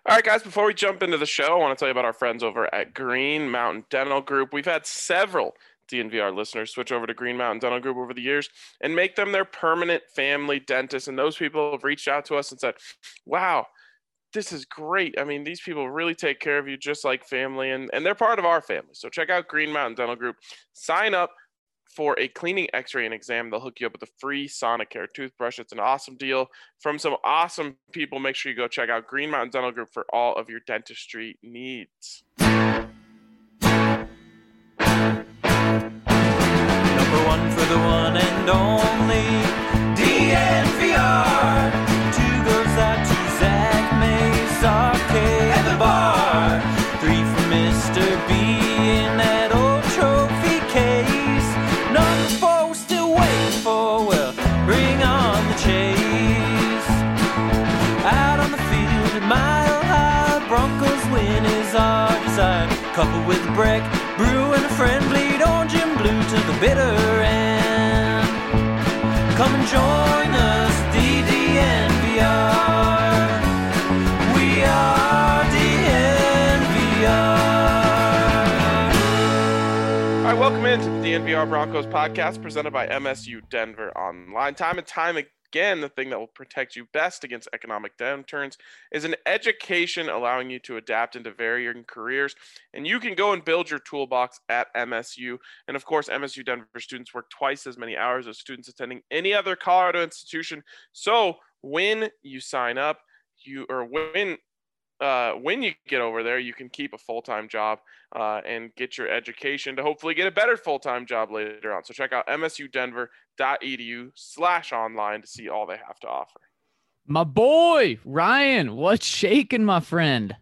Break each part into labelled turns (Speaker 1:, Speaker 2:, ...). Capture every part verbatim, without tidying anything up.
Speaker 1: All right, guys, before we jump into the show, I want to tell you about our friends over at Green Mountain Dental Group. We've had several D N V R listeners switch over to Green Mountain Dental Group over the years and make them their permanent family dentist. And those people have reached out to us and said, wow, this is great. I mean, these people really take care of you just like family, and, and they're part of our family. So check out Green Mountain Dental Group. Sign up for a cleaning, x-ray, and exam. They'll hook you up with a free Sonicare toothbrush. It's an awesome deal from some awesome people. Make sure you go check out Green Mountain Dental Group for all of your dentistry needs.
Speaker 2: Number one for the one and only D N V R. Two goes out to Zach Mays, Arcade, and the bar. Three for Mister B in that old trophy case. Number four we're still waiting for, well, bring on the chase. Out on the field at Mile High, Broncos win is our desire. Coupled with Breck, Brew, and a friend, bleed orange and blue to the bitter end. Come and join us, D D N V R. We are D N V R.
Speaker 1: All right, welcome into the D N V R Broncos podcast presented by M S U Denver Online. Time and time again, the thing that will protect you best against economic downturns is an education allowing you to adapt into varying careers. And you can go and build your toolbox at M S U. And of course, M S U Denver students work twice as many hours as students attending any other Colorado institution. So when you sign up, you or when uh, when you get over there, you can keep a full-time job uh, and get your education to hopefully get a better full-time job later on. So check out msudenver.edu slash online to see all they have to offer.
Speaker 3: My boy, Ryan, what's shaking, my friend?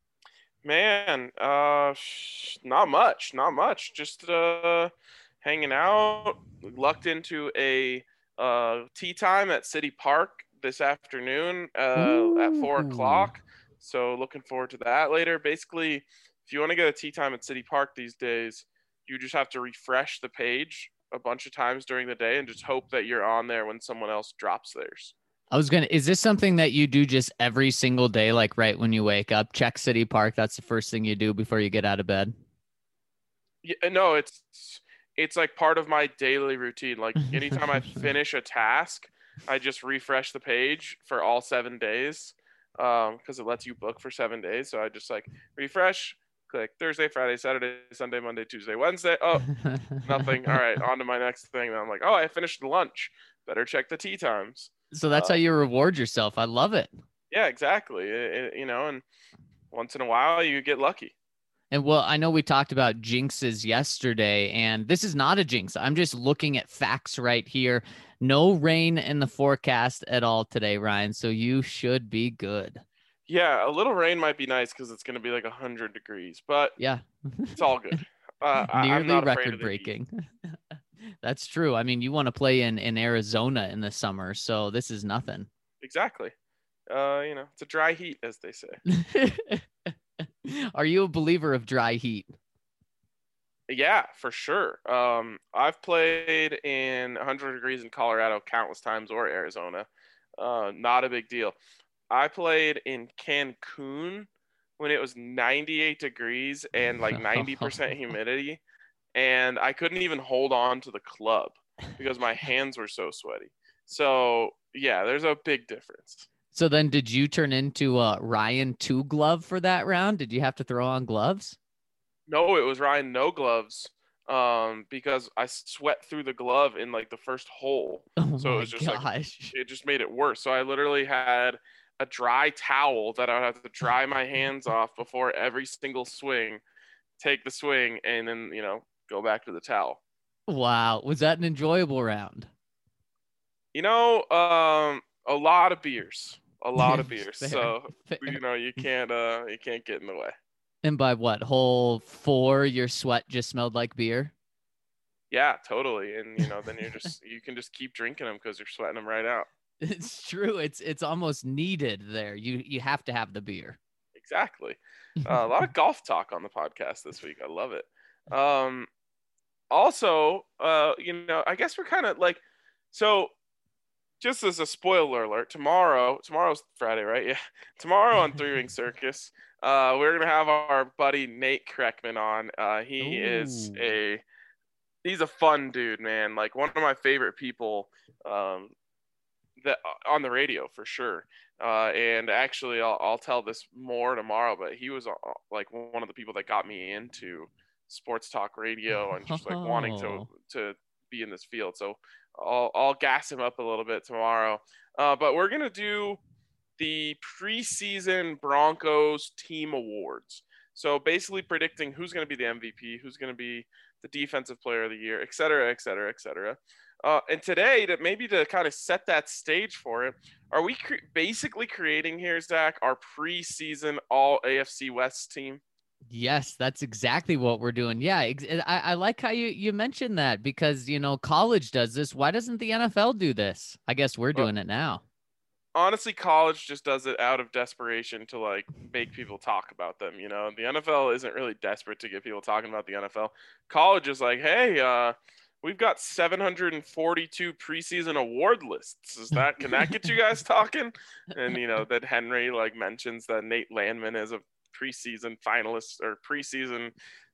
Speaker 1: Man, uh, not much, not much. Just uh, hanging out. Lucked into a uh, tea time at City Park this afternoon uh, at four o'clock. So looking forward to that later. Basically, if you want to get a tea time at City Park these days, you just have to refresh the page a bunch of times during the day and just hope that you're on there when someone else drops theirs.
Speaker 3: I was gonna. Is this something that you do just every single day, like right when you wake up? Check City Park. That's the first thing you do before you get out of bed.
Speaker 1: Yeah, no, it's it's like part of my daily routine. Like anytime I finish a task, I just refresh the page for all seven days. Um, because it lets you book for seven days. So I just like refresh, click Thursday, Friday, Saturday, Sunday, Monday, Tuesday, Wednesday. Oh, nothing. All right, on to my next thing. And I'm like, oh, I finished lunch. Better check the tea times.
Speaker 3: So that's
Speaker 1: uh,
Speaker 3: how you reward yourself. I love it.
Speaker 1: Yeah, exactly. It, it, you know, and once in a while you get lucky.
Speaker 3: And well, I know we talked about jinxes yesterday, and this is not a jinx. I'm just looking at facts right here. No rain in the forecast at all today, Ryan. So you should be good.
Speaker 1: Yeah, a little rain might be nice because it's going to be like one hundred degrees, but
Speaker 3: yeah,
Speaker 1: it's all good. Uh,
Speaker 3: Nearly
Speaker 1: I'm not
Speaker 3: record breaking. That's true. I mean, you want to play in, in Arizona in the summer, so this is nothing.
Speaker 1: Exactly. Uh, you know, it's a dry heat, as they say.
Speaker 3: Are you a believer of dry heat?
Speaker 1: Yeah, for sure. Um, I've played in one hundred degrees in Colorado countless times, or Arizona. Uh, not a big deal. I played in Cancun when it was ninety-eight degrees and like ninety percent humidity, and I couldn't even hold on to the club because my hands were so sweaty. So yeah, there's a big difference.
Speaker 3: So then did you turn into uh, Ryan two glove for that round? Did you have to throw on gloves?
Speaker 1: No, it was Ryan no gloves um, because I sweat through the glove in like the first hole.
Speaker 3: Oh
Speaker 1: so
Speaker 3: my
Speaker 1: it was just
Speaker 3: gosh.
Speaker 1: like, it just made it worse. So I literally had a dry towel that I would have to dry my hands off before every single swing, take the swing, and then, you know, go back to the towel.
Speaker 3: Wow. Was that an enjoyable round?
Speaker 1: You know, um, a lot of beers, a lot of beers.
Speaker 3: Fair,
Speaker 1: so,
Speaker 3: fair.
Speaker 1: you know, you can't, uh, you can't get in the way.
Speaker 3: And by what, hole four, your sweat just smelled like beer?
Speaker 1: Yeah, totally. And, you know, then you're just, you can just keep drinking them because you're sweating them right out.
Speaker 3: It's true. It's it's almost needed there. You you have to have the beer.
Speaker 1: Exactly. Uh, a lot of golf talk on the podcast this week. I love it. Um, also, uh, you know, I guess we're kind of like, so just as a spoiler alert, tomorrow, tomorrow's Friday, right? Yeah. Tomorrow on Three Ring Circus, uh, we're going to have our buddy Nate Kreckman on. Uh, he is
Speaker 3: Ooh.
Speaker 1: a, he's a fun dude, man. Like one of my favorite people um, that on the radio for sure. Uh, and actually, I'll, I'll tell this more tomorrow, but he was uh, like one of the people that got me into sports talk radio and just like wanting to,
Speaker 3: Oh.
Speaker 1: to be in this field. So I'll, I'll gas him up a little bit tomorrow. Uh, but we're going to do the preseason Broncos team awards. So basically predicting who's going to be the M V P, who's going to be the defensive player of the year, et cetera, et cetera, et cetera. Uh, and today, to maybe to kind of set that stage for it, are we cre- basically creating here, Zach, our preseason all A F C West team?
Speaker 3: Yes, that's exactly what we're doing. Yeah, ex- I, I like how you, you mentioned that because, you know, college does this. Why doesn't the N F L do this? I guess we're doing
Speaker 1: well,
Speaker 3: it now.
Speaker 1: Honestly, college just does it out of desperation to like make people talk about them. You know, the N F L isn't really desperate to get people talking about the N F L. College is like, hey, uh, we've got seven hundred forty-two preseason award lists. Is that, can that get you guys talking? And, you know, that Henry like mentions that Nate Landman is a preseason finalist or preseason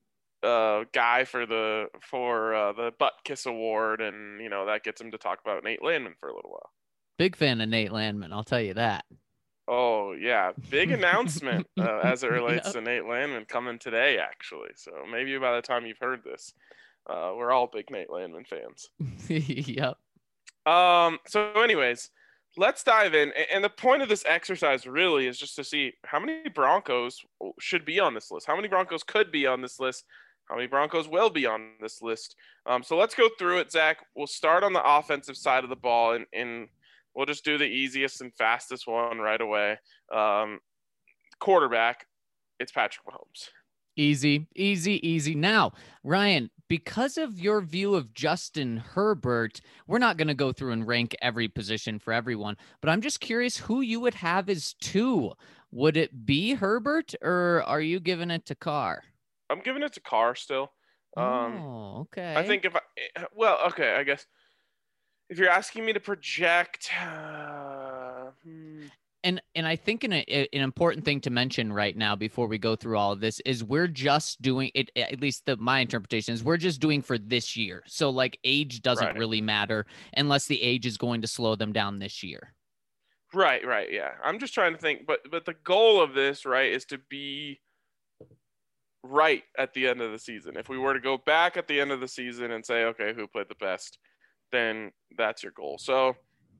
Speaker 1: uh, guy for the, for uh, the Butt Kiss Award. And, you know, that gets him to talk about Nate Landman for a little while.
Speaker 3: Big fan of Nate Landman, I'll tell you that.
Speaker 1: Oh, yeah. Big announcement uh, as it relates
Speaker 3: Yep.
Speaker 1: to Nate Landman coming today, actually. So maybe by the time you've heard this, uh, we're all big Nate Landman fans.
Speaker 3: Yep.
Speaker 1: Um. So, anyways, let's dive in. And the point of this exercise really is just to see how many Broncos should be on this list. How many Broncos could be on this list? How many Broncos will be on this list? Um. So let's go through it, Zach. We'll start on the offensive side of the ball, and, and we'll just do the easiest and fastest one right away. Um, quarterback, it's Patrick Mahomes.
Speaker 3: Easy, easy, easy. Now, Ryan, because of your view of Justin Herbert, we're not going to go through and rank every position for everyone, but I'm just curious who you would have as two. Would it be Herbert or are you giving it to Carr?
Speaker 1: I'm giving it to Carr still. Um,
Speaker 3: Oh, okay.
Speaker 1: I think if I, well, okay, I guess if you're asking me to project, uh, hmm,
Speaker 3: And and I think an, an important thing to mention right now before we go through all of this is we're just doing it, at least the my interpretation is we're just doing for this year. So like age doesn't
Speaker 1: Right.
Speaker 3: really matter unless the age is going to slow them down this year.
Speaker 1: right, right, yeah. I'm just trying to think, but but the goal of this, right, is to be right at the end of the season. If we were to go back at the end of the season and say, okay, who played the best, then that's your goal. So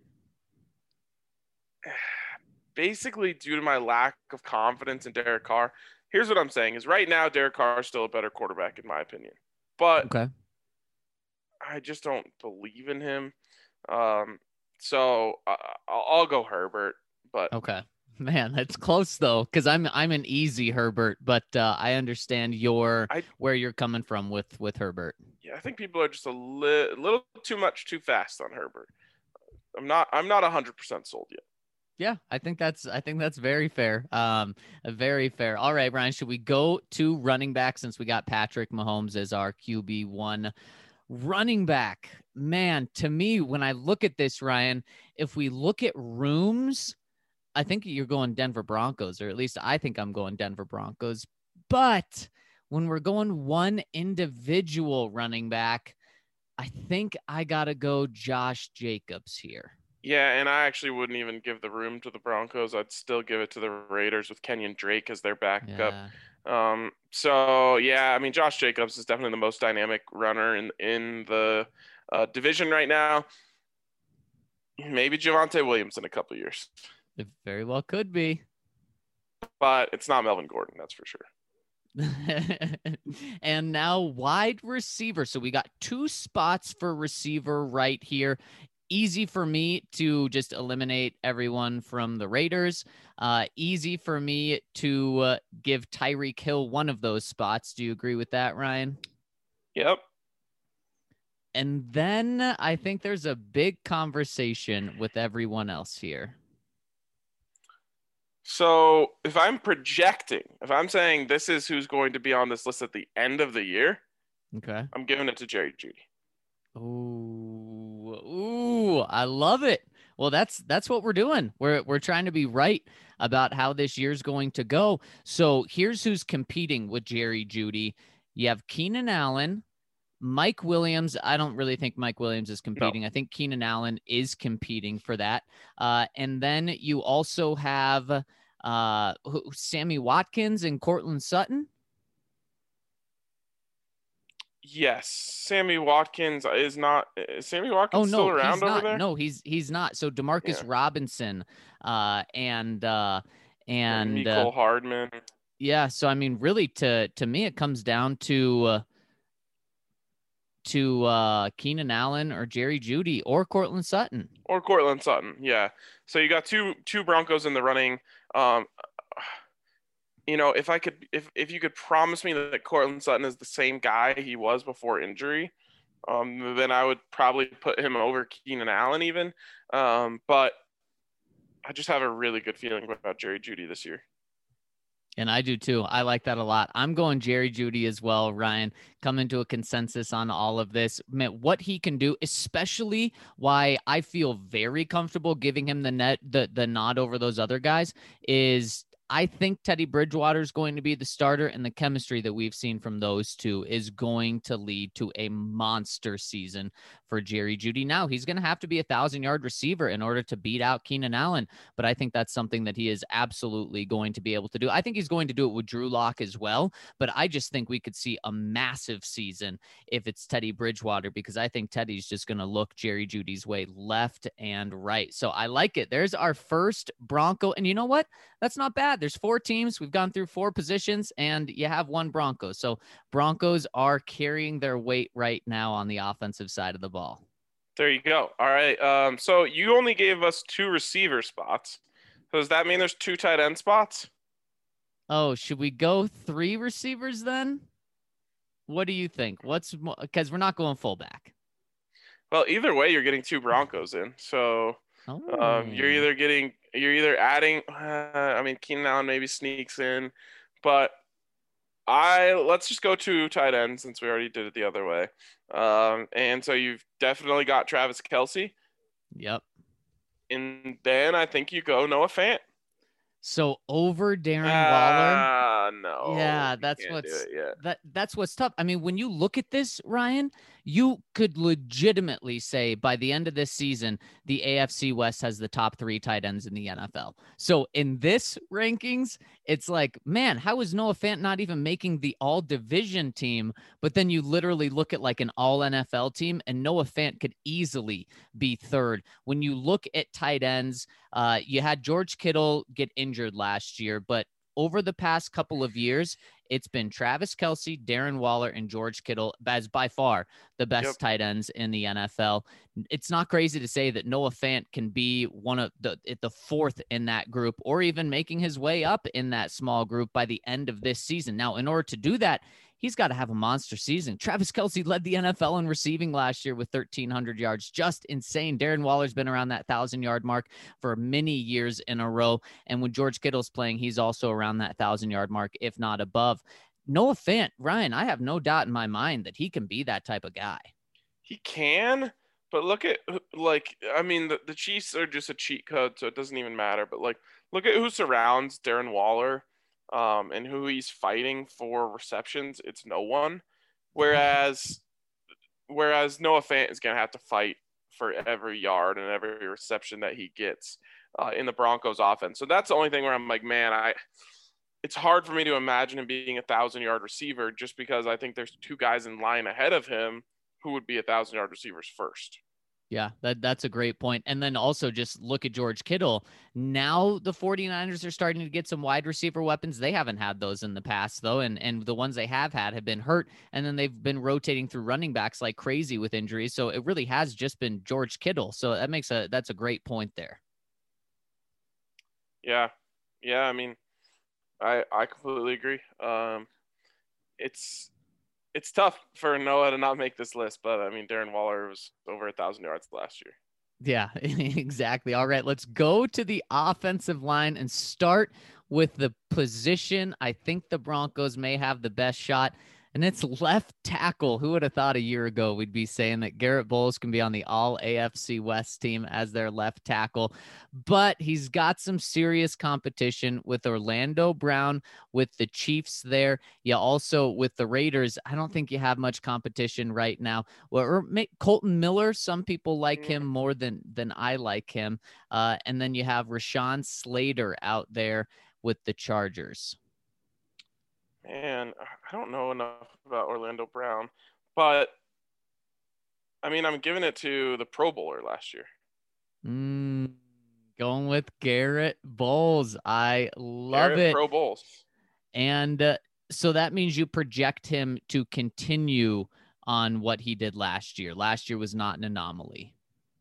Speaker 1: basically, due to my lack of confidence in Derek Carr, here's what I'm saying: is right now Derek Carr is still a better quarterback in my opinion, but
Speaker 3: Okay.
Speaker 1: I just don't believe in him. Um, so uh, I'll, I'll go Herbert, but
Speaker 3: Okay. Man, that's close though, because I'm I'm an easy Herbert, but uh, I understand your
Speaker 1: I
Speaker 3: where you're coming from with with Herbert.
Speaker 1: yeah, I think people are just a li- little too much too fast on Herbert. I'm not I'm not one hundred percent sold yet.
Speaker 3: Yeah, I think that's I think that's very fair. Um, very fair. All right, Ryan, should we go to running back since we got Patrick Mahomes as our Q B one running back? Man, to me, when I look at this, Ryan, if we look at rooms, I think you're going Denver Broncos, or at least I think I'm going Denver Broncos. But when we're going one individual running back, I think I gotta go Josh Jacobs here.
Speaker 1: Yeah, and I actually wouldn't even give the room to the Broncos. I'd still give it to the Raiders with Kenyon Drake as their backup.
Speaker 3: Yeah.
Speaker 1: Um, so yeah, I mean, Josh Jacobs is definitely the most dynamic runner in in the uh, division right now. Maybe Javonte Williams in a couple years,
Speaker 3: It very well could be.
Speaker 1: but it's not Melvin Gordon, that's for sure.
Speaker 3: And now wide receiver. So we got two spots for receiver right here. Easy for me to just eliminate everyone from the Raiders. Uh, easy for me to uh, give Tyreek Hill one of those spots. Do you agree with that, Ryan?
Speaker 1: Yep.
Speaker 3: And then I think there's a big conversation with everyone else here.
Speaker 1: So if I'm projecting, if I'm saying this is who's going to be on this list at the end of the year,
Speaker 3: Okay.
Speaker 1: I'm giving it to Jerry Jeudy.
Speaker 3: Ooh, ooh, I love it. Well, that's that's what we're doing. We're we're trying to be right about how this year's going to go. So here's who's competing with Jerry Jeudy. You have Keenan Allen, Mike Williams. I don't really think Mike Williams is competing.
Speaker 1: No.
Speaker 3: I think Keenan Allen is competing for that. Uh, and then you also have uh, Sammy Watkins and Cortland Sutton.
Speaker 1: Yes, Sammy Watkins is not. Is Sammy Watkins
Speaker 3: Oh no,
Speaker 1: still around
Speaker 3: he's
Speaker 1: over
Speaker 3: not.
Speaker 1: there?
Speaker 3: No, he's he's not. So Demarcus
Speaker 1: Yeah.
Speaker 3: Robinson, uh, and uh, and
Speaker 1: Mecole
Speaker 3: uh,
Speaker 1: Hardman.
Speaker 3: yeah. So I mean, really, to to me, it comes down to uh, to uh, Keenan Allen or Jerry Jeudy or Cortland Sutton.
Speaker 1: Or Cortland Sutton, yeah. So you got two two Broncos in the running. Um, you know, if I could, if if you could promise me that Cortland Sutton is the same guy he was before injury, um, then I would probably put him over Keenan Allen even. Um, but I just have a really good feeling about Jerry Jeudy this year.
Speaker 3: And I do too. I like that a lot. I'm going Jerry Jeudy as well, Ryan. Coming to a consensus on all of this. Man, what he can do, especially why I feel very comfortable giving him the net the, the nod over those other guys, is I think Teddy Bridgewater is going to be the starter, and the chemistry that we've seen from those two is going to lead to a monster season for Jerry Jeudy. Now, he's going to have to be a thousand-yard receiver in order to beat out Keenan Allen, but I think that's something that he is absolutely going to be able to do. I think he's going to do it with Drew Lock as well, but I just think we could see a massive season if it's Teddy Bridgewater, because I think Teddy's just going to look Jerry Jeudy's way left and right. So I like it. There's our first Bronco, and you know what? That's not bad. There's four teams. We've gone through four positions, and you have one Broncos. So Broncos are carrying their weight right now on the offensive side of the ball.
Speaker 1: There you go. All right. Um, so you only gave us two receiver spots. So does that mean there's two tight end spots?
Speaker 3: Oh, should we go three receivers then? What do you think? What's because we're not going fullback.
Speaker 1: Well, either way, you're getting two Broncos in. So
Speaker 3: Oh.
Speaker 1: um, you're either getting, you're either adding. Uh, I mean, Keenan Allen maybe sneaks in, but I let's just go to tight end since we already did it the other way. Um, and so you've definitely got Travis Kelce.
Speaker 3: Yep.
Speaker 1: And then I think you go Noah Fant.
Speaker 3: So over Darren Waller.
Speaker 1: Ah, no.
Speaker 3: Yeah,
Speaker 1: you
Speaker 3: that's
Speaker 1: can't
Speaker 3: what's
Speaker 1: do it yet.
Speaker 3: that that's what's tough. I mean, when you look at this, Ryan, you could legitimately say by the end of this season, the A F C West has the top three tight ends in the N F L. So in this rankings, it's like, man, how is Noah Fant not even making the all division team? But then you literally look at like an all N F L team, and Noah Fant could easily be third. When you look at tight ends, uh, you had George Kittle get injured last year, but over the past couple of years, it's been Travis Kelce, Darren Waller, and George Kittle as by far the best
Speaker 1: Yep.
Speaker 3: tight ends in the N F L. It's not crazy to say that Noah Fant can be one of the at the fourth in that group, or even making his way up in that small group by the end of this season. Now, in order to do that, he's got to have a monster season. Travis Kelce led the N F L in receiving last year with thirteen hundred yards. Just insane. Darren Waller's been around that one thousand yard mark for many years in a row. And when George Kittle's playing, he's also around that one thousand yard mark, if not above. Noah Fant, Ryan, I have no doubt in my mind that he can be that type of guy.
Speaker 1: He can, but look at, like, I mean, the, the Chiefs are just a cheat code, so it doesn't even matter. But, like, look at who surrounds Darren Waller. Um, and who he's fighting for receptions, it's no one. Whereas, whereas Noah Fant is going to have to fight for every yard and every reception that he gets uh, in the Broncos offense. So that's the only thing where I'm like, man, I, it's hard for me to imagine him being a thousand yard receiver just because I think there's two guys in line ahead of him who would be a thousand yard receivers first.
Speaker 3: Yeah, that, that's a great point. And then also just look at George Kittle. Now the 49ers are starting to get some wide receiver weapons. They haven't had those in the past, though, and, and the ones they have had have been hurt, and then they've been rotating through running backs like crazy with injuries. So it really has just been George Kittle. So that makes a that's a great point there.
Speaker 1: Yeah, yeah. I mean, I I completely agree. Um, it's It's tough for Noah to not make this list, but I mean, Darren Waller was over a thousand yards last year.
Speaker 3: Yeah, exactly. All right, let's go to the offensive line and start with the position I think the Broncos may have the best shot. And it's left tackle. Who would have thought a year ago we'd be saying that Garrett Bowles can be on the all A F C West team as their left tackle? But he's got some serious competition with Orlando Brown, with the Chiefs there. Yeah, also with the Raiders. I don't think you have much competition right now. Well, or Colton Miller. Some people like him more than than I like him. Uh, and then you have Rashawn Slater out there with the Chargers.
Speaker 1: Man, I don't know enough about Orlando Brown, but I mean, I'm giving it to the Pro Bowler last year.
Speaker 3: Mm, going with Garrett Bowles. I love
Speaker 1: Garrett
Speaker 3: it.
Speaker 1: Pro Bowles.
Speaker 3: And uh, so that means you project him to continue on what he did last year. Last year was not an anomaly.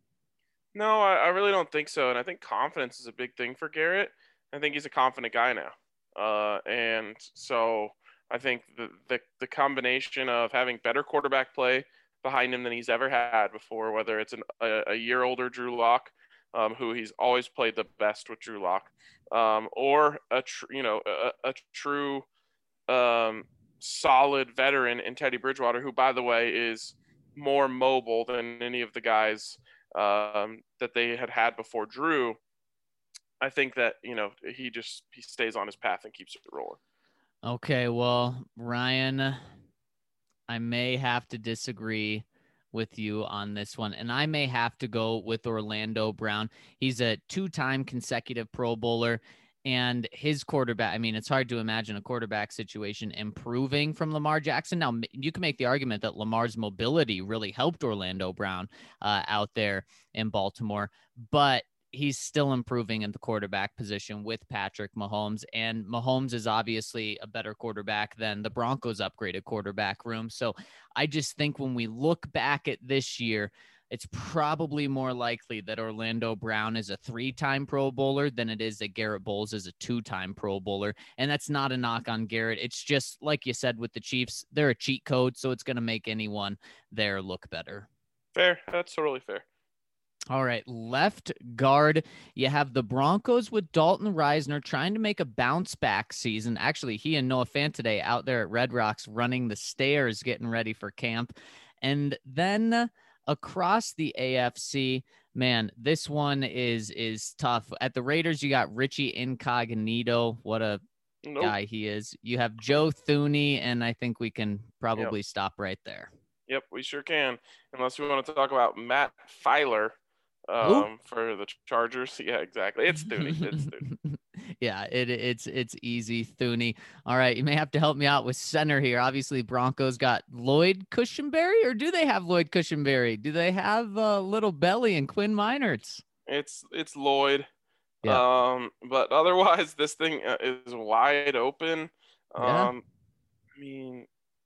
Speaker 1: No, I, I really don't think so. And I think confidence is a big thing for Garrett. I think he's a confident guy now. Uh, and so I think the, the the combination of having better quarterback play behind him than he's ever had before, whether it's an, a, a year older Drew Lock, um, who he's always played the best with Drew Lock, um, or a tr- you know a, a true um, solid veteran in Teddy Bridgewater, who by the way is more mobile than any of the guys um, that they had had before Drew. I think that, you know, he just, he stays on his path and keeps it rolling.
Speaker 3: Okay. Well, Ryan, I may have to disagree with you on this one, and I may have to go with Orlando Brown. He's a two-time consecutive Pro Bowler, and his quarterback, I mean, it's hard to imagine a quarterback situation improving from Lamar Jackson. Now, you can make the argument that Lamar's mobility really helped Orlando Brown uh, out there in Baltimore, but he's still improving in the quarterback position with Patrick Mahomes, and Mahomes is obviously a better quarterback than the Broncos' upgraded quarterback room. So I just think when we look back at this year, it's probably more likely that Orlando Brown is a three-time Pro Bowler than it is that Garrett Bowles is a two-time Pro Bowler. And that's not a knock on Garrett. It's just like you said with the Chiefs, they're a cheat code, so it's going to make anyone there look better.
Speaker 1: Fair. That's totally fair.
Speaker 3: All right, left guard. You have the Broncos with Dalton Risner trying to make a bounce back season. Actually, he and Noah Fant today out there at Red Rocks running the stairs, getting ready for camp. And then across the A F C, man, this one is is tough. At the Raiders, you got Richie Incognito. What a nope. guy he is. You have Joe Thuney, and I think we can probably yep. stop right there.
Speaker 1: Yep, we sure can. Unless we want to talk about Matt Filer. Um, for the Chargers. Yeah, exactly. It's Thuney. It's Thuney.
Speaker 3: yeah, it, it's it's easy, Thuney. All right, you may have to help me out with center here. Obviously, Broncos got Lloyd Cushenberry, or do they have Lloyd Cushenberry? Do they have uh, Little Belly and Quinn Meinerz?
Speaker 1: It's it's Lloyd. Yeah. Um, but otherwise, this thing is wide open.
Speaker 3: Yeah.
Speaker 1: Um, I mean,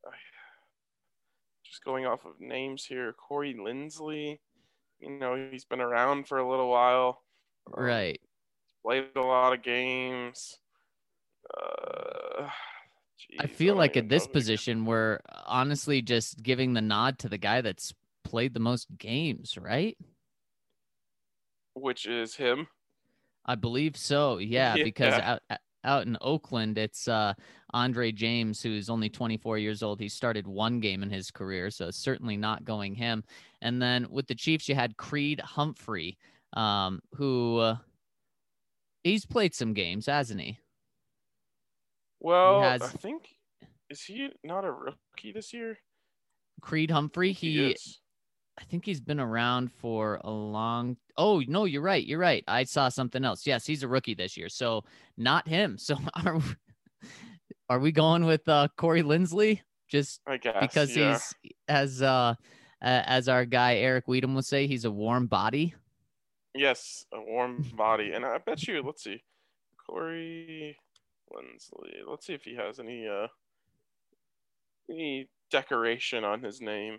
Speaker 1: just going off of names here, Corey Linsley. You know, he's been around for a little while.
Speaker 3: Um, right.
Speaker 1: Played a lot of games. Uh, geez,
Speaker 3: I feel I like at this position, we're honestly just giving the nod to the guy that's played the most games, right?
Speaker 1: Which is him?
Speaker 3: I believe so, yeah, yeah. because out, out in Oakland, it's uh, Andre James, who's only twenty-four years old. He started one game in his career, so certainly not going him. And then with the Chiefs, you had Creed Humphrey, um, who uh, he's played some games, hasn't he?
Speaker 1: Well, he has, I think, is he not a rookie this year?
Speaker 3: Creed Humphrey, he,
Speaker 1: he
Speaker 3: I think he's been around for a long. Oh, no, you're right. You're right. I saw something else. Yes, he's a rookie this year. So not him. So are, are we going with uh, Corey Linsley? Just
Speaker 1: I guess,
Speaker 3: because
Speaker 1: yeah.
Speaker 3: he's, as, uh, as our guy Eric Weedham would say, he's a warm body.
Speaker 1: Yes, a warm body. And I bet you, let's see, Corey Linsley. Let's see if he has any, uh, any decoration on his name.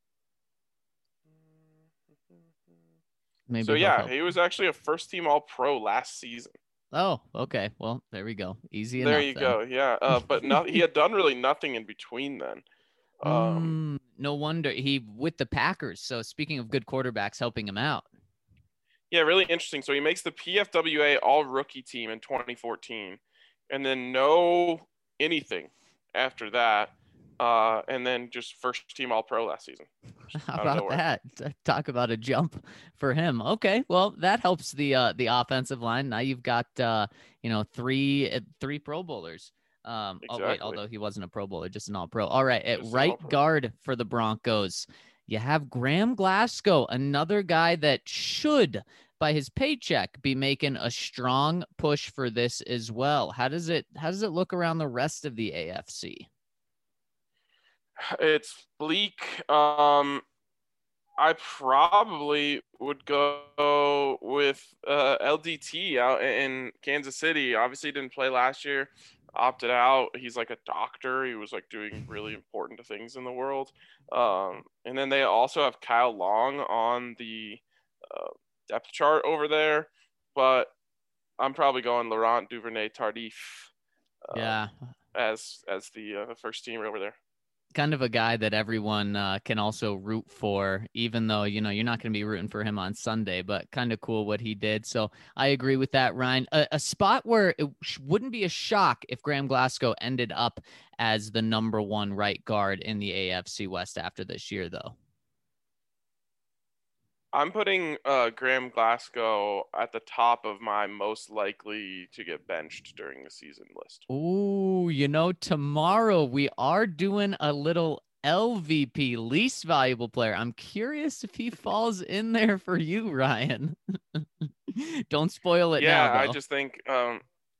Speaker 3: Maybe
Speaker 1: so yeah, he was actually a first team All Pro last season.
Speaker 3: Oh, okay. Well, there we go. Easy enough.
Speaker 1: There you
Speaker 3: then.
Speaker 1: go. Yeah, uh, but not, he had done really nothing in between then.
Speaker 3: Um, mm, no wonder he with the Packers. So speaking of good quarterbacks helping him out.
Speaker 1: Yeah, really interesting. So he makes the P F W A All Rookie team in twenty fourteen, and then no anything after that. uh, and then just first team All Pro last season.
Speaker 3: How about that? Talk about a jump for him. Okay, well that helps the uh, the offensive line. Now you've got uh, you know three uh, three Pro Bowlers. Um,
Speaker 1: Exactly.
Speaker 3: Oh wait, although he wasn't a Pro Bowler, just an All Pro. All right, at
Speaker 1: Just
Speaker 3: right guard for the Broncos, you have Graham Glasgow, another guy that should, by his paycheck, be making a strong push for this as well. How does it How does it look around the rest of the A F C?
Speaker 1: It's bleak. Um, I probably would go with uh, L D T out in Kansas City. Obviously, didn't play last year, opted out. He's like a doctor. He was like doing really important things in the world. Um, and then they also have Kyle Long on the uh, depth chart over there, but I'm probably going Laurent Duvernay Tardif. Uh,
Speaker 3: yeah,
Speaker 1: as as the uh, first teamer over there.
Speaker 3: Kind of a guy that everyone uh, can also root for, even though, you know, you're not going to be rooting for him on Sunday, but kind of cool what he did. So I agree with that, Ryan. A, a spot where it wouldn't be a shock if Graham Glasgow ended up as the number one right guard in the A F C West after this year, though.
Speaker 1: I'm putting uh, Graham Glasgow at the top of my most likely to get benched during the season list.
Speaker 3: Ooh, you know, tomorrow we are doing a little L V P, least valuable player. I'm curious if he falls in there for you, Ryan. Don't spoil it
Speaker 1: yeah,
Speaker 3: now, though.
Speaker 1: I just think um,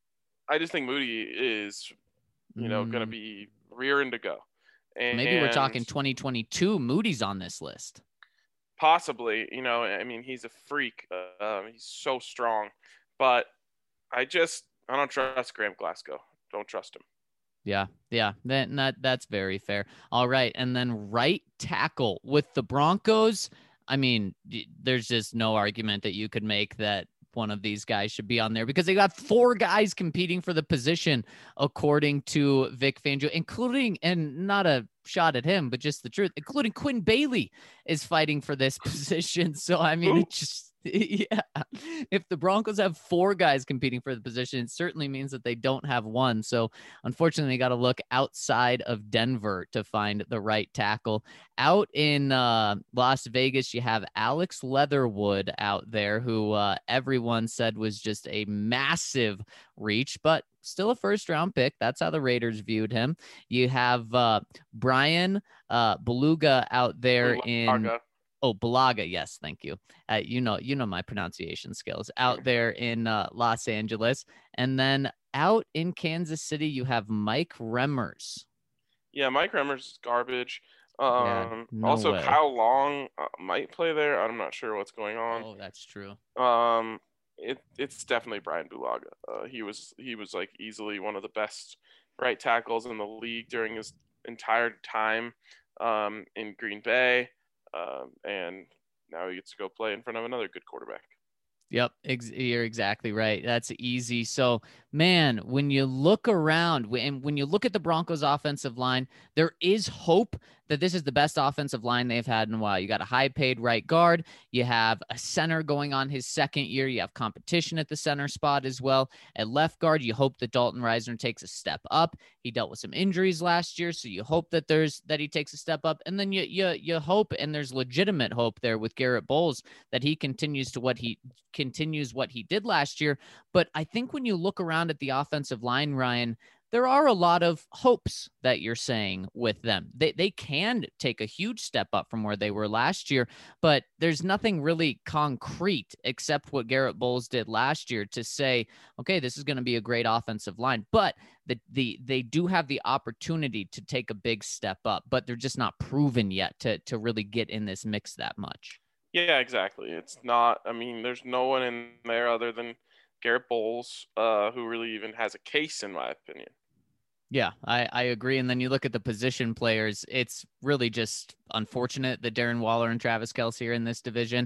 Speaker 1: I just think Moody is, you know,
Speaker 3: mm.
Speaker 1: going to be rearing to go. And
Speaker 3: Maybe we're talking twenty twenty-two. Moody's on this list.
Speaker 1: Possibly, you know, I mean, he's a freak. Uh, he's so strong, but I just I don't trust Graham Glasgow. Don't trust him.
Speaker 3: Yeah, yeah, that, that that's very fair. All right, and then right tackle with the Broncos. I mean, there's just no argument that you could make that one of these guys should be on there because they got four guys competing for the position, according to Vic Fangio, including, and not a shot at him, but just the truth, including Quinn Bailey is fighting for this position. So, I mean, Ooh. it just, yeah, if the Broncos have four guys competing for the position, it certainly means that they don't have one. So, unfortunately, they got to look outside of Denver to find the right tackle. Out in uh, Las Vegas, you have Alex Leatherwood out there, who uh, everyone said was just a massive reach, but still a first round pick. That's how the Raiders viewed him. You have uh, Brian uh, Beluga out there
Speaker 1: Bulaga.
Speaker 3: in oh Bulaga. Yes, thank you. Uh, you know, you know my pronunciation skills out there in uh, Los Angeles, and then out in Kansas City, you have Mike Remmers.
Speaker 1: Yeah, Mike Remmers is garbage. Um,
Speaker 3: yeah, no
Speaker 1: also,
Speaker 3: way.
Speaker 1: Kyle Long uh, might play there. I'm not sure what's going on.
Speaker 3: Oh, that's true.
Speaker 1: Um, it it's definitely Brian Bulaga. Uh, he was he was like easily one of the best right tackles in the league during his entire time um, in Green Bay, um, and now he gets to go play in front of another good quarterback.
Speaker 3: Yep, ex- you're exactly right. That's easy. So, man, when you look around and when you look at the Broncos offensive line, there is hope that this is the best offensive line they've had in a while. You got a high paid right guard. You have a center going on his second year. You have competition at the center spot as well. At left guard, you hope that Dalton Risner takes a step up. He dealt with some injuries last year, so you hope that there's that he takes a step up. And then you you you hope, and there's legitimate hope there with Garrett Bowles that he continues to what he continues what he did last year. But I think when you look around at the offensive line, Ryan, there are a lot of hopes that you're saying with them. They they can take a huge step up from where they were last year, but there's nothing really concrete except what Garrett Bowles did last year to say, okay, this is going to be a great offensive line. But the, the they do have the opportunity to take a big step up, but they're just not proven yet to to really get in this mix that much.
Speaker 1: Yeah, exactly. It's not, I mean, there's no one in there other than Garrett Bowles, uh, who really even has a case, in my opinion.
Speaker 3: Yeah, I, I agree. And then you look at the position players, it's really just unfortunate that Darren Waller and Travis Kelce are in this division.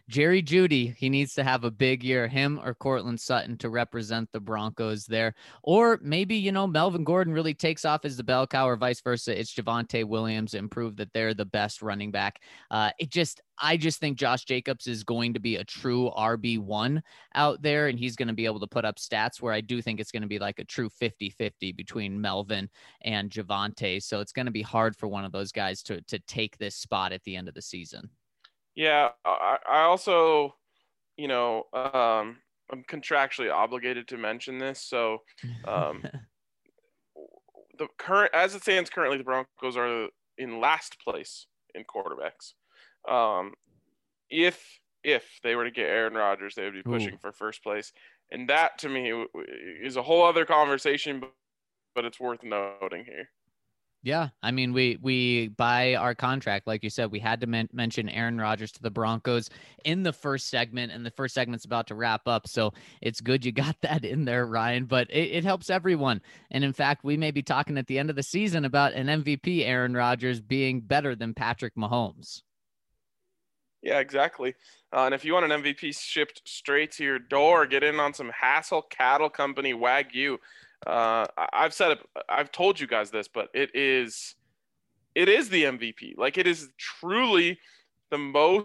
Speaker 3: Jerry Jeudy, he needs to have a big year, him or Cortland Sutton, to represent the Broncos there. Or maybe, you know, Melvin Gordon really takes off as the bell cow, or vice versa. It's Javonte Williams and prove that they're the best running back. Uh, it just, I just think Josh Jacobs is going to be a true R B one out there, and he's going to be able to put up stats where I do think it's going to be like a true fifty-fifty between Melvin and Javonte. So it's going to be hard for one of those guys to, to take this spot at the end of the season.
Speaker 1: Yeah, I, I also, you know, um, I'm contractually obligated to mention this. So um, the current, as it stands currently, the Broncos are in last place in quarterbacks. Um, if if they were to get Aaron Rodgers, they would be pushing Ooh. for first place, and that to me is a whole other conversation. But, but it's worth noting here.
Speaker 3: Yeah, I mean, we we by our contract, like you said, we had to men- mention Aaron Rodgers to the Broncos in the first segment, and the first segment's about to wrap up, so it's good you got that in there, Ryan. But it, it helps everyone, and in fact, we may be talking at the end of the season about an M V P Aaron Rodgers being better than Patrick Mahomes.
Speaker 1: Yeah, exactly. Uh, and if you want an M V P shipped straight to your door, get in on some Hassel Cattle Company Wagyu. Uh, I've said it, I've told you guys this, but it is, it is the M V P. Like, it is truly the most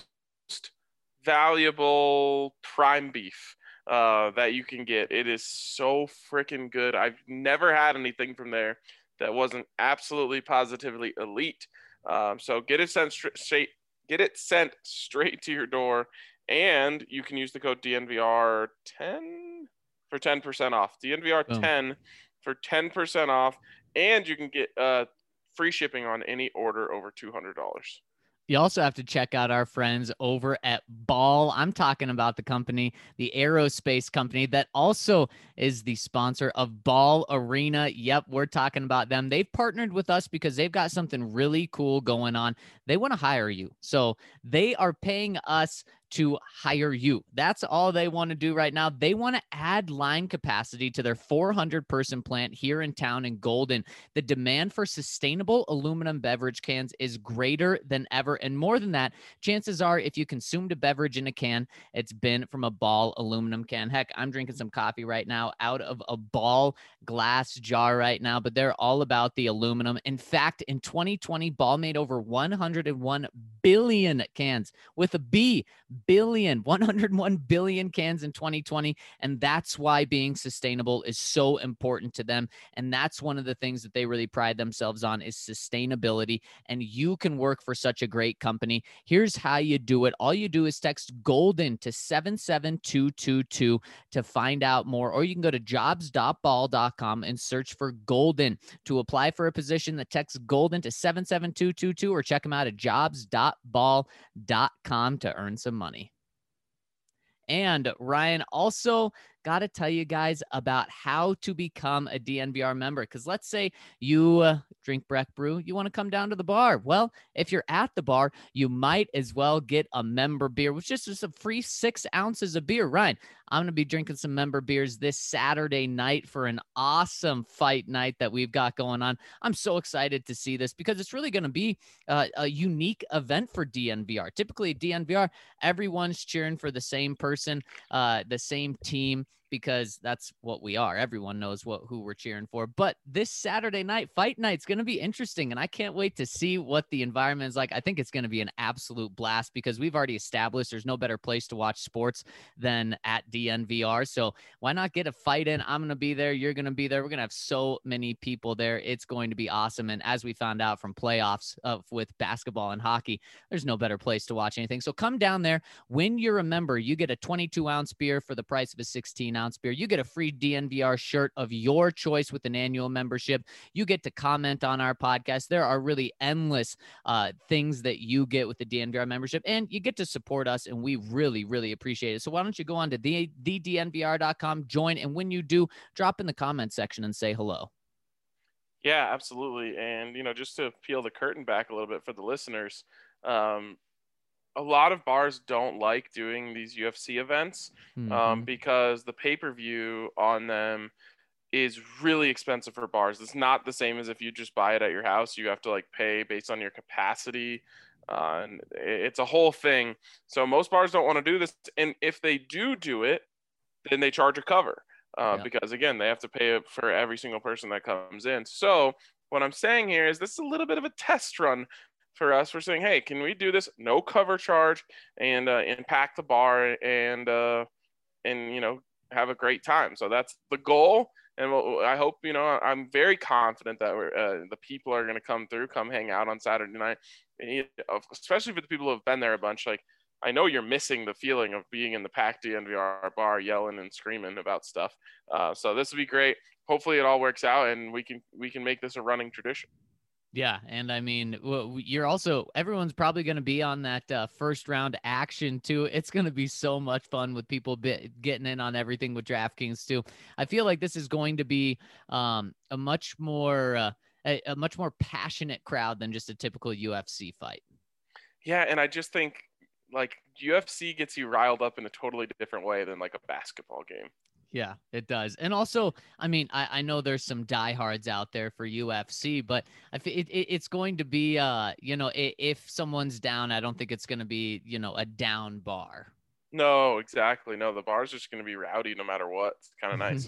Speaker 1: valuable prime beef uh, that you can get. It is so freaking good. I've never had anything from there that wasn't absolutely positively elite. Um, so get it sent straight, get it sent straight to your door, and you can use the code D N V R ten for ten percent off. D N V R ten oh. for ten percent off, and you can get uh, free shipping on any order over two hundred dollars.
Speaker 3: You also have to check out our friends over at Ball. I'm talking about the company, the aerospace company that also is the sponsor of Ball Arena. Yep, we're talking about them. They've partnered with us because they've got something really cool going on. They want to hire you. So they are paying us to hire you. That's all they want to do right now. They want to add line capacity to their four hundred person plant here in town in Golden. The demand for sustainable aluminum beverage cans is greater than ever. And more than that, chances are if you consumed a beverage in a can, it's been from a Ball aluminum can. Heck, I'm drinking some coffee right now out of a Ball glass jar right now, but they're all about the aluminum. In fact, in twenty twenty, Ball made over one hundred one billion cans with a B. Billion, one hundred one billion cans in twenty twenty. And that's why being sustainable is so important to them. And that's one of the things that they really pride themselves on is sustainability. And you can work for such a great company. Here's how you do it. All you do is text GOLDEN to seven seven two two two to find out more, or you can go to jobs dot ball dot com and search for Golden to apply for a position. That text GOLDEN to seven seven two two two, or check them out at jobs dot ball dot com to earn some money. And Ryan, also got to tell you guys about how to become a D N V R member. Because let's say you uh, drink Breck Brew, you want to come down to the bar. Well, if you're at the bar, you might as well get a member beer, which is just a free six ounces of beer. Ryan, I'm going to be drinking some member beers this Saturday night for an awesome fight night that we've got going on. I'm so excited to see this because it's really going to be uh, a unique event for D N V R. Typically, D N V R, everyone's cheering for the same person, uh, the same team, because that's what we are. Everyone knows what who we're cheering for. But this Saturday night, fight night's going to be interesting, and I can't wait to see what the environment is like. I think it's going to be an absolute blast because we've already established there's no better place to watch sports than at D N V R. So why not get a fight in? I'm going to be there. You're going to be there. We're going to have so many people there. It's going to be awesome. And as we found out from playoffs uh, with basketball and hockey, there's no better place to watch anything. So come down there. When you're a member, you get a twenty-two ounce beer for the price of a sixteen ounce beer. You get a free D N V R shirt of your choice with an annual membership. You get to comment on our podcast. There are really endless uh, things that you get with the D N V R membership, and you get to support us, and we really, really appreciate it. So why don't you go on to the, the D N V R dot com, join, and when you do, drop in the comment section and say hello.
Speaker 1: Yeah, absolutely. And, you know, just to peel the curtain back a little bit for the listeners, um, a lot of bars don't like doing these U F C events um, mm-hmm. because the pay-per-view on them is really expensive for bars. It's not the same as if you just buy it at your house. You have to like pay based on your capacity Uh, and it's a whole thing. So most bars don't want to do this. And if they do do it, then they charge a cover uh,
Speaker 3: Yep.
Speaker 1: because, again, they have to pay for every single person that comes in. So what I'm saying here is this is a little bit of a test run for us. We're saying, hey, can we do this? No cover charge and uh, impact the bar and, uh, and, you know, have a great time. So that's the goal. And we'll, I hope, you know, I'm very confident that we're, uh, the people are going to come through, come hang out on Saturday night, especially for the people who have been there a bunch. Like, I know you're missing the feeling of being in the packed D N V R bar, yelling and screaming about stuff. Uh, so this will be great. Hopefully it all works out and we can, we can make this a running tradition.
Speaker 3: Yeah, and I mean, you're also everyone's probably going to be on that uh, first round action too. It's going to be so much fun with people bit, getting in on everything with DraftKings too. I feel like this is going to be um, a much more uh, a, a much more passionate crowd than just a typical U F C fight.
Speaker 1: Yeah, and I just think like U F C gets you riled up in a totally different way than like a basketball game.
Speaker 3: Yeah, it does. And also, I mean, I, I know there's some diehards out there for U F C, but I f- it, it, it's going to be, uh, you know, if, if someone's down, I don't think it's going to be, you know, a down bar.
Speaker 1: No, exactly. No, the bar's just going to be rowdy no matter what. It's kind of nice.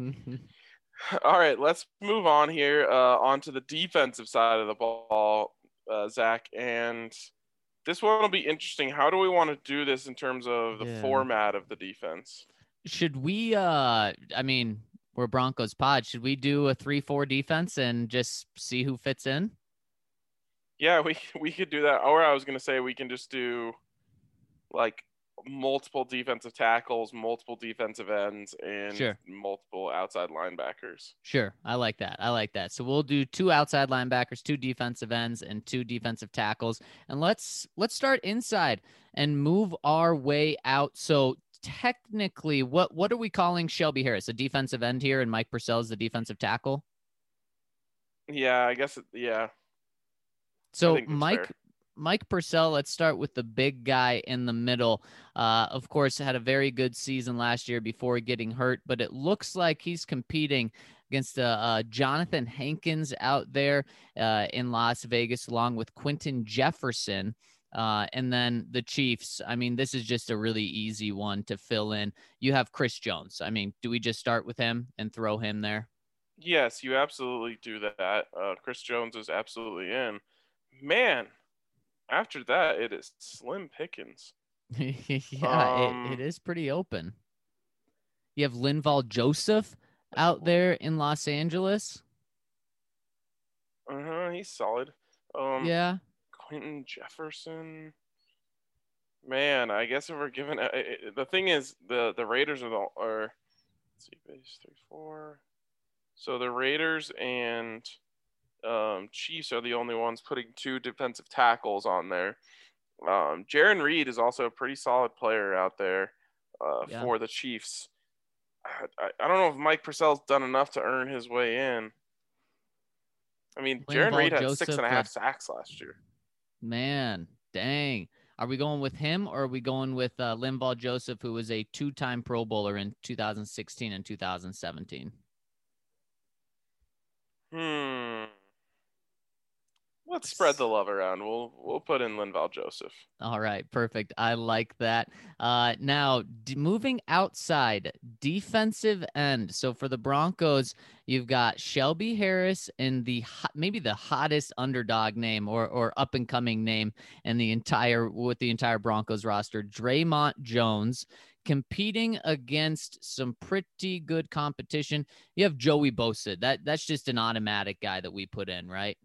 Speaker 1: All right, let's move on here uh, onto the defensive side of the ball, uh, Zach. And this one will be interesting. How do we want to do this in terms of the
Speaker 3: Yeah.
Speaker 1: format of the defense?
Speaker 3: Should we, uh, I mean, we're Broncos pod. Should we do a three four defense and just see who fits in?
Speaker 1: Yeah, we we could do that. Or I was going to say we can just do like multiple defensive tackles, multiple defensive ends, and
Speaker 3: Sure.
Speaker 1: multiple outside linebackers.
Speaker 3: Sure. I like that. I like that. So we'll do two outside linebackers, two defensive ends, and two defensive tackles. And let's let's start inside and move our way out. So technically, what what are we calling Shelby Harris? A defensive end here, and Mike Purcell is the defensive tackle?
Speaker 1: Yeah, I guess, it, yeah.
Speaker 3: So
Speaker 1: think that's
Speaker 3: Mike
Speaker 1: fair.
Speaker 3: Mike Purcell, let's start with the big guy in the middle. Uh, of course, had a very good season last year before getting hurt, but it looks like he's competing against uh, uh, Jonathan Hankins out there uh, in Las Vegas, along with Quentin Jefferson. Uh, and then the Chiefs. I mean, this is just a really easy one to fill in. You have Chris Jones. I mean, do we just start with him and throw him there?
Speaker 1: Yes, you absolutely do that. Uh, Chris Jones is absolutely in. Man, after that, it is slim pickings.
Speaker 3: yeah,
Speaker 1: Um,
Speaker 3: it, it is pretty open. You have Linval Joseph out there in Los Angeles.
Speaker 1: Uh-huh, he's solid. Um,
Speaker 3: Yeah.
Speaker 1: Quentin Jefferson. Man, I guess if we're given uh, it, the thing is the the Raiders are the are let's see base three four. So the Raiders and um, Chiefs are the only ones putting two defensive tackles on there. Um, Jaron Reed is also a pretty solid player out there uh,
Speaker 3: Yeah.
Speaker 1: for the Chiefs. I, I don't know if Mike Purcell's done enough to earn his way in. I mean, Jaron
Speaker 3: Linval
Speaker 1: Reed had
Speaker 3: Joseph,
Speaker 1: six and a half
Speaker 3: uh,
Speaker 1: sacks last year.
Speaker 3: Man, dang. Are we going with him or are we going with uh, Linval Joseph, who was a two-time Pro Bowler in two thousand sixteen and two thousand seventeen?
Speaker 1: Hmm. Let's spread the love around. We'll we'll put in Linval Joseph.
Speaker 3: All right, perfect. I like that. Uh, now, d- moving outside, defensive end. So for the Broncos, you've got Shelby Harris in the hot, maybe the hottest underdog name or or up and coming name in the entire with the entire Broncos roster, Draymond Jones, competing against some pretty good competition. You have Joey Bosa. That that's just an automatic guy that we put in, right?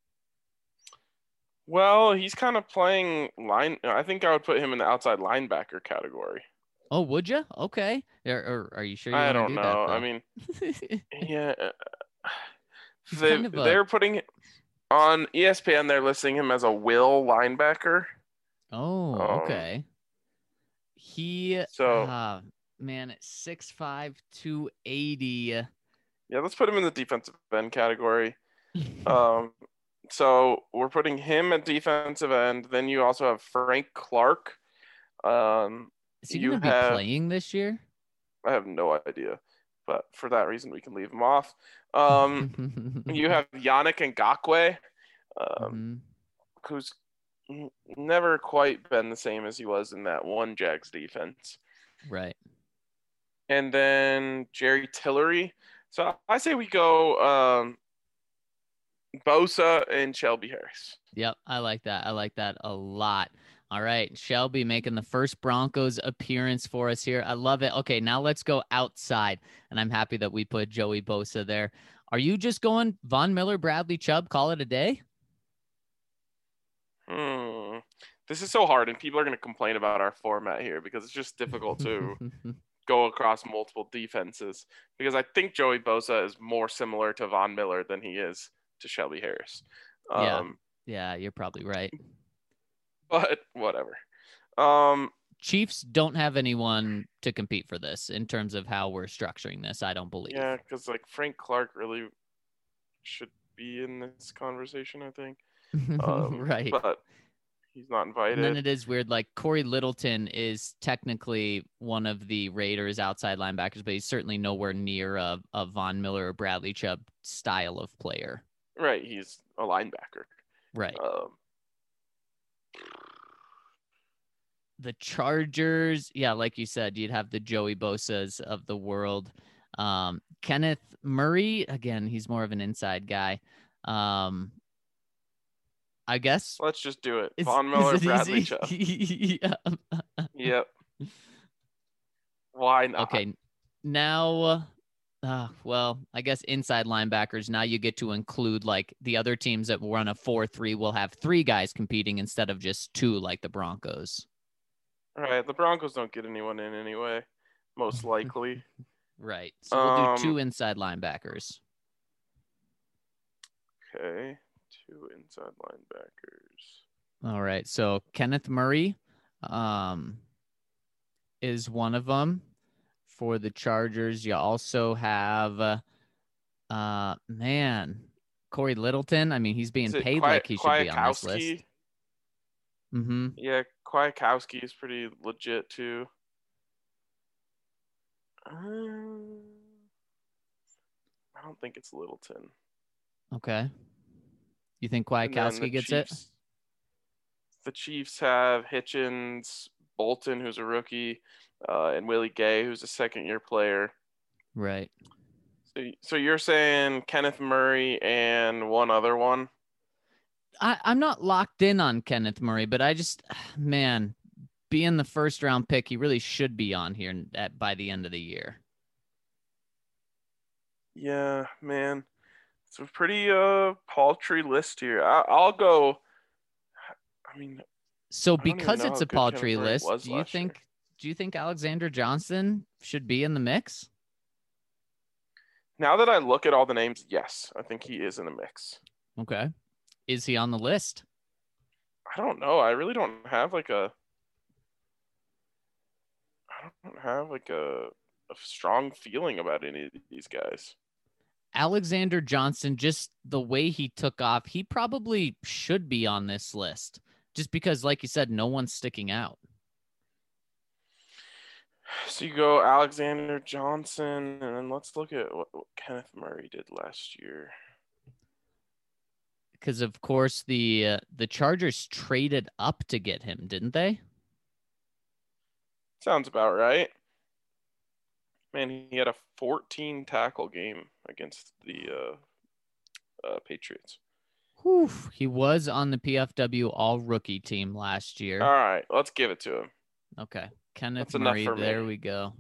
Speaker 1: Well, he's kind of playing line. I think I would put him in the outside linebacker category.
Speaker 3: Oh, would you? Okay. Or, or are you sure you
Speaker 1: I
Speaker 3: want to
Speaker 1: don't
Speaker 3: do
Speaker 1: know.
Speaker 3: that?
Speaker 1: I mean, yeah,
Speaker 3: He's
Speaker 1: they
Speaker 3: kind of a-
Speaker 1: they're putting on E S P N. They're listing him as a will linebacker.
Speaker 3: Oh,
Speaker 1: Um,
Speaker 3: okay. He,
Speaker 1: So-
Speaker 3: uh, man, at six five, two eighty.
Speaker 1: Yeah, let's put him in the defensive end category. Um, so we're putting him at defensive end. Then you also have Frank Clark. Um,
Speaker 3: Is he
Speaker 1: you
Speaker 3: going to be
Speaker 1: have-
Speaker 3: playing this year?
Speaker 1: I have no idea, but for that reason, we can leave him off. Um, you have Yannick Ngakoue, um,
Speaker 3: Mhm.
Speaker 1: who's n- never quite been the same as he was in that one Jags defense.
Speaker 3: Right.
Speaker 1: And then Jerry Tillery. So I say we go um, Bosa and Shelby Harris.
Speaker 3: Yep, I like that. I like that a lot. All right, Shelby making the first Broncos appearance for us here. I love it. Okay, now let's go outside, and I'm happy that we put Joey Bosa there. Are you just going Von Miller, Bradley Chubb, call it a day?
Speaker 1: Hmm. This is so hard, and people are going to complain about our format here because it's just difficult to go across multiple defenses. Because I think Joey Bosa is more similar to Von Miller than he is to Shelby Harris.
Speaker 3: Yeah,
Speaker 1: Um,
Speaker 3: yeah, you're probably right.
Speaker 1: But whatever. Um,
Speaker 3: Chiefs don't have anyone to compete for this in terms of how we're structuring this, I don't believe.
Speaker 1: Yeah, because like Frank Clark really should be in this conversation, I think. Um,
Speaker 3: right.
Speaker 1: But he's not invited.
Speaker 3: And then it is weird. Like Corey Littleton is technically one of the Raiders outside linebackers, but he's certainly nowhere near a, a Von Miller or Bradley Chubb style of player.
Speaker 1: Right. He's a linebacker.
Speaker 3: Right.
Speaker 1: Um,
Speaker 3: the Chargers, yeah, like you said, you'd have the Joey Bosas of the world. Um, Kenneth Murray, again, he's more of an inside guy. Um, I guess.
Speaker 1: Let's just do it.
Speaker 3: Is,
Speaker 1: Von Miller,
Speaker 3: is it
Speaker 1: Bradley
Speaker 3: easy?
Speaker 1: Chubb.
Speaker 3: yeah.
Speaker 1: Yep. Why not?
Speaker 3: Okay. Now, uh, well, I guess inside linebackers, now you get to include like the other teams that run a four three will have three guys competing instead of just two like the Broncos.
Speaker 1: All right. The Broncos don't get anyone in anyway, most likely.
Speaker 3: Right. So we'll
Speaker 1: Um,
Speaker 3: do two inside linebackers.
Speaker 1: Okay. Two inside linebackers.
Speaker 3: All right. So Kenneth Murray um, is one of them for the Chargers. You also have, uh, uh man, Corey Littleton. I mean, he's being
Speaker 1: Is it
Speaker 3: paid
Speaker 1: Qui-
Speaker 3: like he should be on this list.
Speaker 1: Kwiatkowski?
Speaker 3: Mm-hmm.
Speaker 1: Yeah, Kwiatkowski is pretty legit too. Um, I don't think it's Littleton.
Speaker 3: Okay. You think
Speaker 1: And then the
Speaker 3: Kwiatkowski gets it?
Speaker 1: Chiefs- The Chiefs have Hitchens, Bolton, who's a rookie, uh, and Willie Gay, who's a second-year player.
Speaker 3: Right.
Speaker 1: So, so you're saying Kenneth Murray and one other one?
Speaker 3: I, I'm not locked in on Kenneth Murray, but I just, man, being the first round pick, he really should be on here at, by the end of the year.
Speaker 1: Yeah, man. It's a pretty uh paltry list here. I, I'll go. I mean,
Speaker 3: So
Speaker 1: I don't even
Speaker 3: because
Speaker 1: know
Speaker 3: it's
Speaker 1: how
Speaker 3: a
Speaker 1: good
Speaker 3: paltry
Speaker 1: Kenneth Murray
Speaker 3: list,
Speaker 1: was
Speaker 3: do you
Speaker 1: last year.
Speaker 3: think do you think Alexander Johnson should be in the mix?
Speaker 1: Now that I look at all the names, yes, I think he is in the mix.
Speaker 3: Okay. Is he on the list?
Speaker 1: I don't know. I really don't have like a. I don't have like a, a strong feeling about any of these guys.
Speaker 3: Alexander Johnson, just the way he took off, he probably should be on this list. Just because, like you said, no one's sticking out.
Speaker 1: So you go Alexander Johnson, and then let's look at what, what Kenneth Murray did last year.
Speaker 3: Because of course the uh, the Chargers traded up to get him, didn't they?
Speaker 1: Sounds about right. Man, he had a fourteen tackle game against the uh, uh, Patriots.
Speaker 3: Whew. He was on the P F W All Rookie team last year.
Speaker 1: All right, let's give it to him.
Speaker 3: Okay, Kenneth
Speaker 1: That's enough
Speaker 3: Murray.
Speaker 1: for me.
Speaker 3: There we go.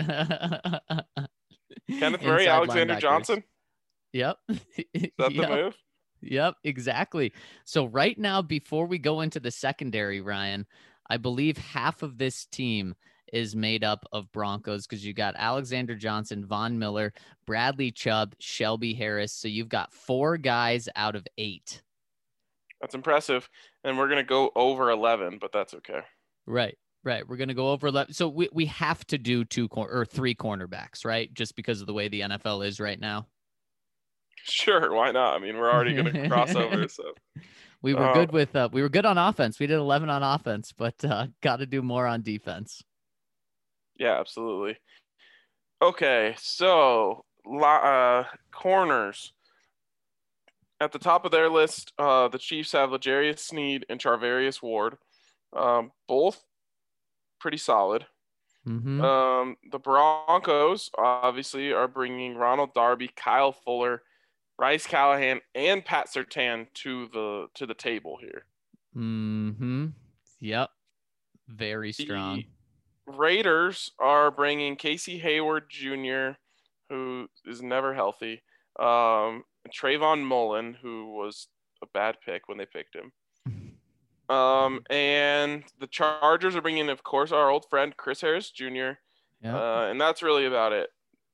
Speaker 1: Kenneth Murray,
Speaker 3: Inside
Speaker 1: Alexander
Speaker 3: linebackers.
Speaker 1: Johnson.
Speaker 3: Yep.
Speaker 1: Is that the
Speaker 3: Yep.
Speaker 1: move?
Speaker 3: Yep, exactly. So right now, before we go into the secondary, Ryan, I believe half of this team is made up of Broncos because you got Alexander Johnson, Von Miller, Bradley Chubb, Shelby Harris. So you've got four guys out of eight.
Speaker 1: That's impressive. And we're gonna go over eleven, but that's okay.
Speaker 3: Right, right. We're gonna go over eleven. So we we have to do two cor- or three cornerbacks, right? Just because of the way the N F L is right now.
Speaker 1: Sure, why not? I mean, we're already gonna cross over, so
Speaker 3: We were
Speaker 1: Uh,
Speaker 3: good with uh, we were good on offense. We did eleven on offense, but uh, got to do more on defense.
Speaker 1: yeah, absolutely. Okay, so uh, corners. At the top of their list, uh, the Chiefs have L'Jarius Sneed and Charvarius Ward, um, both pretty solid.
Speaker 3: Mm-hmm.
Speaker 1: Um, the Broncos obviously are bringing Ronald Darby, Kyle Fuller, Bryce Callahan, and Pat Surtain to the to the table here.
Speaker 3: Mm-hmm. Yep. Very strong.
Speaker 1: The Raiders are bringing Casey Hayward Junior, who is never healthy, um, Trayvon Mullen, who was a bad pick when they picked him. Um, and the Chargers are bringing, of course, our old friend Chris Harris Junior
Speaker 3: Yep.
Speaker 1: Uh, and that's really about it.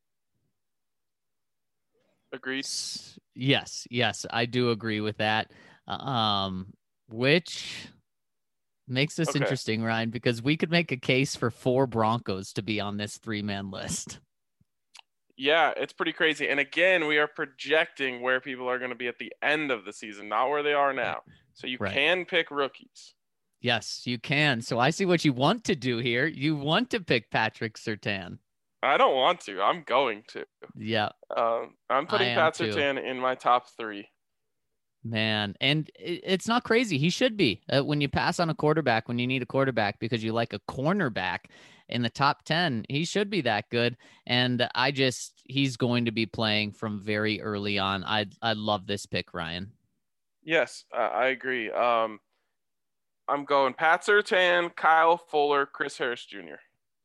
Speaker 1: Agreed?
Speaker 3: S- Yes, yes, I do agree with that. Um, which makes this
Speaker 1: Okay.
Speaker 3: interesting, Ryan, because we could make a case for four Broncos to be on this three-man list.
Speaker 1: Yeah, it's pretty crazy. And again, we are projecting where people are going to be at the end of the season, not where they are now. So you
Speaker 3: Right.
Speaker 1: can pick rookies.
Speaker 3: Yes, you can. So I see what you want to do here. You want to pick Patrick Surtain.
Speaker 1: I don't want to. I'm going to.
Speaker 3: Yeah,
Speaker 1: Um, I'm putting
Speaker 3: I am
Speaker 1: Pat
Speaker 3: too.
Speaker 1: Surtain in my top three.
Speaker 3: man. And it- it's not crazy. He should be. Uh, when you pass on a quarterback, when you need a quarterback because you like a cornerback in the top ten, he should be that good. And I just, he's going to be playing from very early on. I I love this pick, Ryan.
Speaker 1: Yes, uh, I agree. Um, I'm going Pat Surtain, Kyle Fuller, Chris Harris Junior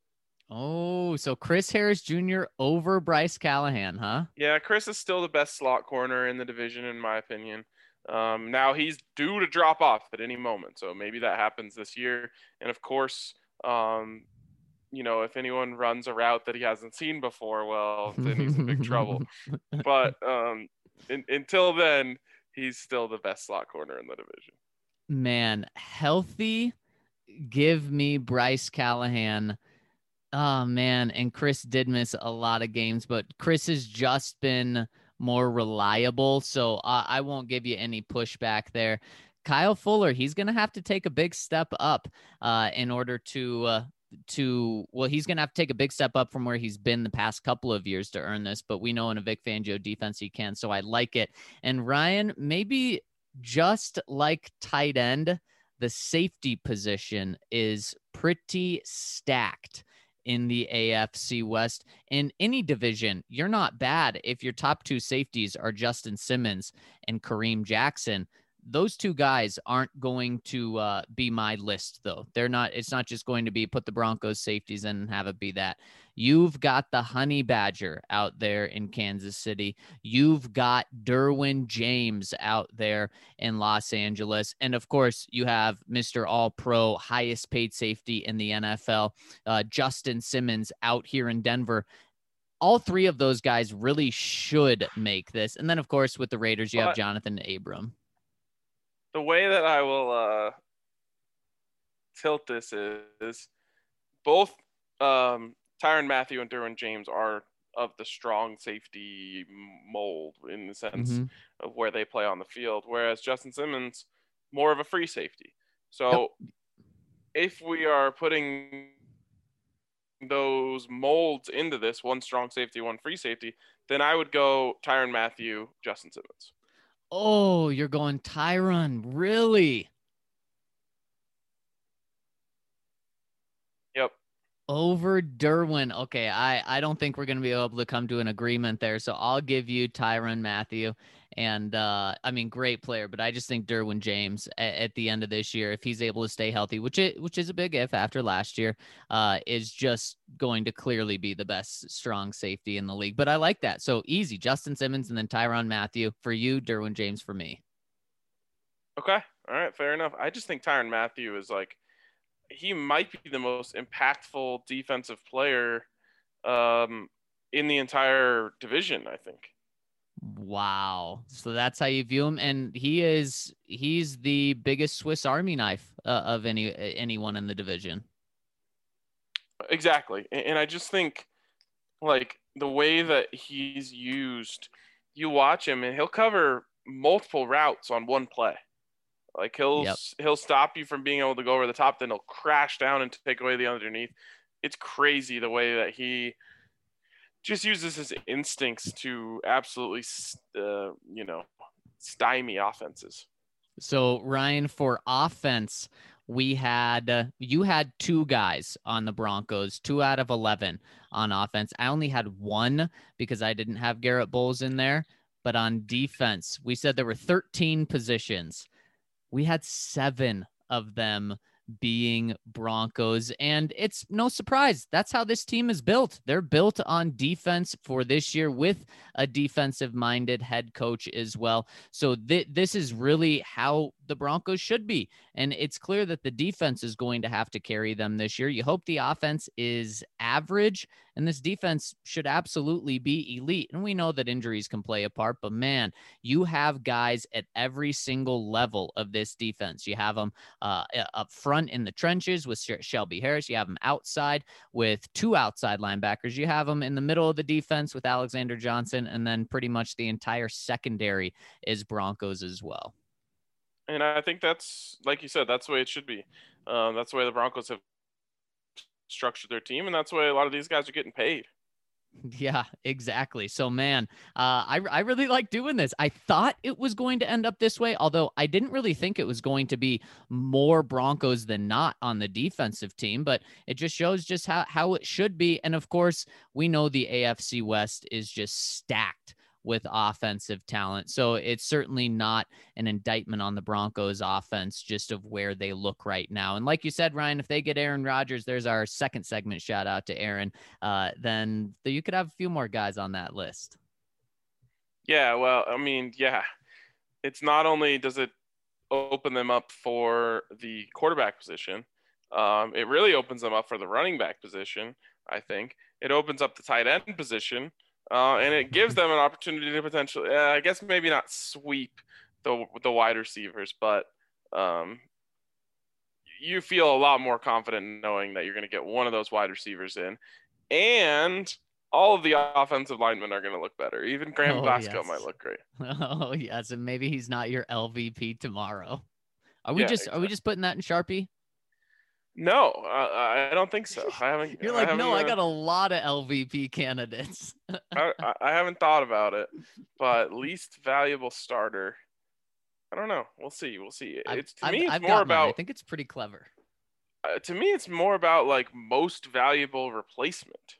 Speaker 3: Oh, so Chris Harris Junior over Bryce Callahan, huh?
Speaker 1: Yeah, Chris is still the best slot corner in the division, in my opinion. Um, now he's due to drop off at any moment, so maybe that happens this year. And of course, um, you know, if anyone runs a route that he hasn't seen before, well, then he's in big trouble. But um, in, until then, he's still the best slot corner in the division.
Speaker 3: Man, healthy. Give me Bryce Callahan. Oh man, and Chris did miss a lot of games, but Chris has just been more reliable, so uh, I won't give you any pushback there. Kyle Fuller, he's gonna have to take a big step up uh, in order to uh, to well, he's gonna have to take a big step up from where he's been the past couple of years to earn this. But we know in a Vic Fangio defense he can, so I like it. And Ryan, maybe just like tight end, the safety position is pretty stacked in the A F C West. In any division, you're not bad if your top two safeties are Justin Simmons and Kareem Jackson. Those two guys aren't going to uh, be my list, though. They're not. It's not just going to be put the Broncos safeties in and have it be that. You've got the Honey Badger out there in Kansas City. You've got Derwin James out there in Los Angeles. And of course, you have Mister All-Pro, highest paid safety in the N F L, uh, Justin Simmons out here in Denver. All three of those guys really should make this. And then, of course, with the Raiders, you have
Speaker 1: But-
Speaker 3: Jonathan Abram.
Speaker 1: The way that I will uh, tilt this is, is both um, Tyrann Mathieu and Derwin James are of the strong safety mold in the sense
Speaker 3: Mhm.
Speaker 1: of where they play on the field, whereas Justin Simmons more of a free safety. So
Speaker 3: Yep.
Speaker 1: if we are putting those molds into this, one strong safety, one free safety, then I would go Tyrann Mathieu, Justin Simmons.
Speaker 3: Oh, you're going Tyron. Really?
Speaker 1: Yep.
Speaker 3: Over Derwin. Okay, I, I don't think we're going to be able to come to an agreement there. So I'll give you Tyron Matthew. And uh, I mean, great player, but I just think Derwin James at, at the end of this year, if he's able to stay healthy, which it, which is a big if after last year, uh, is just going to clearly be the best strong safety in the league. But I like that. So easy, Justin Simmons and then Tyron Matthew for you, Derwin James for me.
Speaker 1: Okay. All right. Fair enough. I just think Tyrann Mathieu is like, he might be the most impactful defensive player um, in the entire division, I think.
Speaker 3: Wow. So that's how you view him. And he is, he's the biggest Swiss Army knife uh, of any, anyone in the division.
Speaker 1: Exactly. And, and I just think like the way that he's used, you watch him and he'll cover multiple routes on one play. Like he'll,
Speaker 3: Yep.
Speaker 1: he'll stop you from being able to go over the top, then he'll crash down and take away the underneath. It's crazy the way that he just uses his instincts to absolutely, uh, you know, stymie offenses.
Speaker 3: So Ryan, for offense, we had uh, you had two guys on the Broncos, two out of eleven on offense. I only had one because I didn't have Garrett Bowles in there. But on defense, we said there were thirteen positions. We had seven of them being Broncos, and it's no surprise. That's how this team is built. They're built on defense for this year with a defensive-minded head coach as well. So th- this is really how the Broncos should be, and it's clear that the defense is going to have to carry them this year. You hope the offense is average, and this defense should absolutely be elite. And we know that injuries can play a part, but man, you have guys at every single level of this defense. You have them uh, up front in the trenches with Shelby Harris. You have them outside with two outside linebackers. You have them in the middle of the defense with Alexander Johnson, and then pretty much the entire secondary is Broncos as well.
Speaker 1: And I think that's, like you said, that's the way it should be. Um, that's the way the Broncos have structured their team, and that's the way a lot of these guys are getting paid.
Speaker 3: Yeah, exactly. So, man, uh, I, I really like doing this. I thought it was going to end up this way, although I didn't really think it was going to be more Broncos than not on the defensive team, but it just shows just how, how it should be. And, of course, we know the A F C West is just stacked with offensive talent. So it's certainly not an indictment on the Broncos offense, just of where they look right now. And like you said, Ryan, if they get Aaron Rodgers, there's our second segment shout out to Aaron, uh, then you could have a few more guys on that list.
Speaker 1: Yeah, well, I mean, yeah, it's not only does it open them up for the quarterback position, um, it really opens them up for the running back position, I think. It opens up the tight end position. Uh, and it gives them an opportunity to potentially, uh, I guess maybe not sweep the the wide receivers, but um, you feel a lot more confident knowing that you're going to get one of those wide receivers in, and all of the offensive linemen are going to look better. Even Graham
Speaker 3: Oh,
Speaker 1: Glasgow
Speaker 3: yes.
Speaker 1: might look great.
Speaker 3: Oh yes, and maybe he's not your L V P tomorrow. Are we
Speaker 1: Yeah,
Speaker 3: just
Speaker 1: exactly.
Speaker 3: are we just putting that in Sharpie?
Speaker 1: No, uh, I don't think so. I haven't.
Speaker 3: You're
Speaker 1: I
Speaker 3: like,
Speaker 1: haven't,
Speaker 3: no, I
Speaker 1: uh,
Speaker 3: got a lot of L V P candidates.
Speaker 1: I, I I haven't thought about it, but least valuable starter. I don't know. We'll see. We'll see.
Speaker 3: I've-
Speaker 1: It's to
Speaker 3: I've-
Speaker 1: me, it's
Speaker 3: I've
Speaker 1: more
Speaker 3: got mine. I
Speaker 1: about.
Speaker 3: think it's pretty clever.
Speaker 1: Uh, to me, it's more about like most valuable replacement.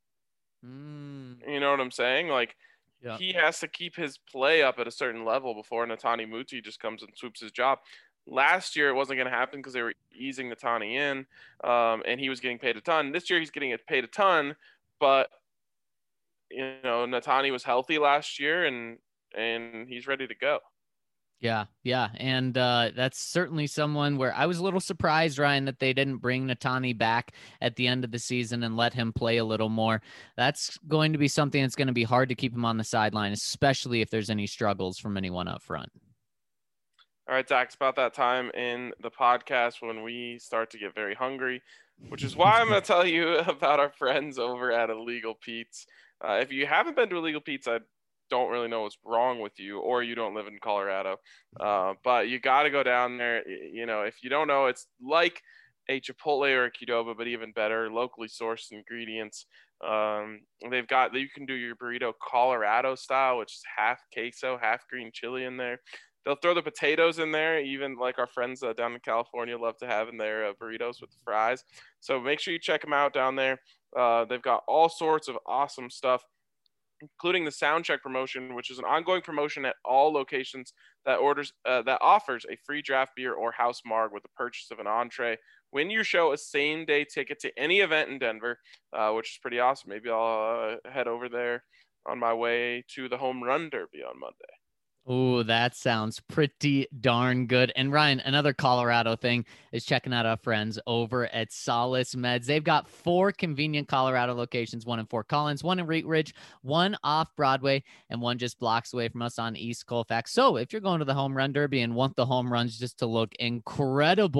Speaker 3: Mm,
Speaker 1: You know what I'm saying? Like
Speaker 3: yeah.
Speaker 1: he has to keep his play up at a certain level before Netani Muti just comes and swoops his job. Last year, it wasn't going to happen because they were easing Netani in, um, and he was getting paid a ton. This year, he's getting paid a ton, but you know, Netani was healthy last year, and and he's ready to go.
Speaker 3: Yeah, yeah, and uh, that's certainly someone where I was a little surprised, Ryan, that they didn't bring Netani back at the end of the season and let him play a little more. That's going to be something that's going to be hard to keep him on the sideline, especially if there's any struggles from anyone up front.
Speaker 1: All right, Zach, it's about that time in the podcast when we start to get very hungry, which is why I'm going to tell you about our friends over at Illegal Pete's. Uh, if you haven't been to Illegal Pete's, I don't really know what's wrong with you, or you don't live in Colorado. Uh, but you got to go down there. You know, if you don't know, it's like a Chipotle or a Qdoba, but even better, locally sourced ingredients. Um, they've got, you can do your burrito Colorado style, which is half queso, half green chili in there. They'll throw the potatoes in there, even like our friends uh, down in California love to have in their uh, burritos with the fries. So make sure you check them out down there. Uh, they've got all sorts of awesome stuff, including the Soundcheck promotion, which is an ongoing promotion at all locations that orders uh, that offers a free draft beer or house marg with the purchase of an entree. Win your show a same-day ticket to any event in Denver, uh, which is pretty awesome. Maybe I'll uh, head over there on my way to the Home Run Derby on Monday.
Speaker 3: Oh, that sounds pretty darn good. And Ryan, another Colorado thing is checking out our friends over at Solace Meds. They've got four convenient Colorado locations, one in Fort Collins, one in Wheat Ridge, one off Broadway, and one just blocks away from us on East Colfax. So if you're going to the Home Run Derby and want the home runs just to look incredible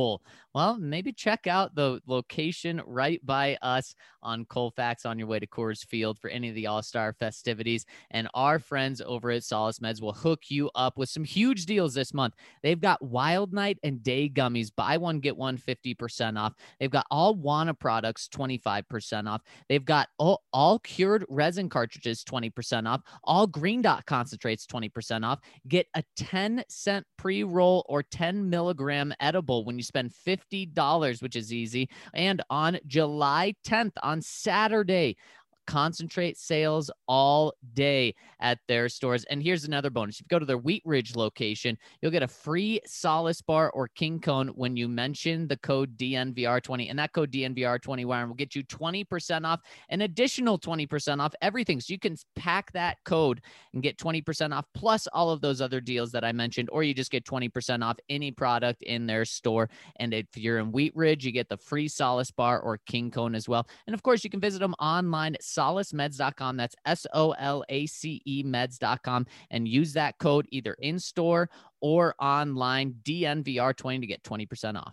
Speaker 3: well, maybe check out the location right by us on Colfax on your way to Coors Field for any of the All-Star festivities. And our friends over at Solace Meds will hook you up with some huge deals this month. They've got Wild Night and Day Gummies. Buy one, get one fifty percent off. They've got all Wana products twenty-five percent off. They've got all, all cured resin cartridges twenty percent off. All Green Dot concentrates twenty percent off. Get a ten cent pre-roll or ten milligram edible when you spend fifty dollars, which is easy. And on July tenth, on Saturday, concentrate sales all day at their stores. And here's another bonus. If you go to their Wheat Ridge location, you'll get a free Solace bar or King Cone when you mention the code D N V R twenty. And that code D N V R twenty, Warren, will get you twenty percent off, an additional twenty percent off everything. So you can pack that code and get twenty percent off plus all of those other deals that I mentioned, or you just get twenty percent off any product in their store. And if you're in Wheat Ridge, you get the free Solace bar or King Cone as well. And of course, you can visit them online at solace meds dot com. That's S O L A C E meds dot com, and use that code either in store or online, D N V R twenty, to get twenty percent off.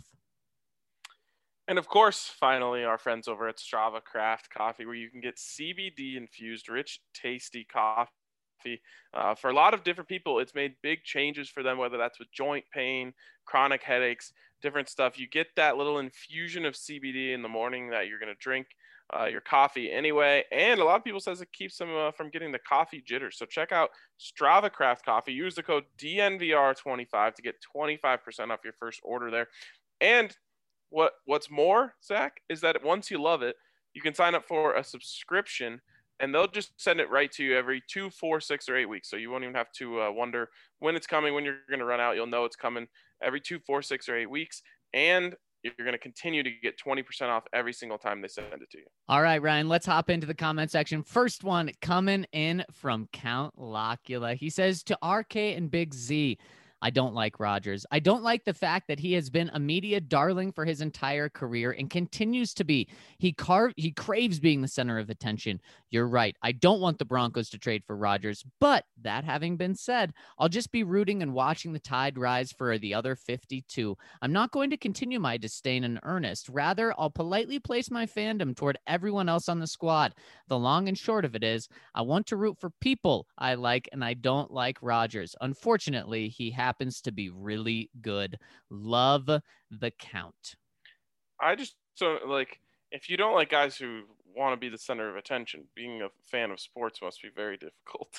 Speaker 1: And of course, finally, our friends over at Strava Craft Coffee, where you can get C B D infused, rich, tasty coffee. Uh, for a lot of different people, it's made big changes for them, whether that's with joint pain, chronic headaches, different stuff. You get that little infusion of C B D in the morning that you're going to drink uh, your coffee anyway. And a lot of people says it keeps them uh, from getting the coffee jitters. So check out Strava Craft Coffee. Use the code D N V R twenty-five to get twenty-five percent off your first order there. And what what's more, Zach, is that once you love it, you can sign up for a subscription, and they'll just send it right to you every two, four, six, or eight weeks. So you won't even have to uh, wonder when it's coming, when you're going to run out. You'll know it's coming every two, four, six, or eight weeks. And you're going to continue to get twenty percent off every single time they send it to you.
Speaker 3: All right, Ryan, let's hop into the comment section. First one coming in from Count Locula. He says, to R K and Big Z, I don't like Rodgers. I don't like the fact that he has been a media darling for his entire career and continues to be. He car- he craves being the center of attention. You're right. I don't want the Broncos to trade for Rodgers. But that having been said, I'll just be rooting and watching the tide rise for the other fifty-two. I'm not going to continue my disdain in earnest. Rather, I'll politely place my fandom toward everyone else on the squad. The long and short of it is, I want to root for people I like, and I don't like Rodgers. Unfortunately, he happens to be really good. Love, the Count.
Speaker 1: I just don't like, if you don't like guys who want to be the center of attention, being a fan of sports must be very difficult.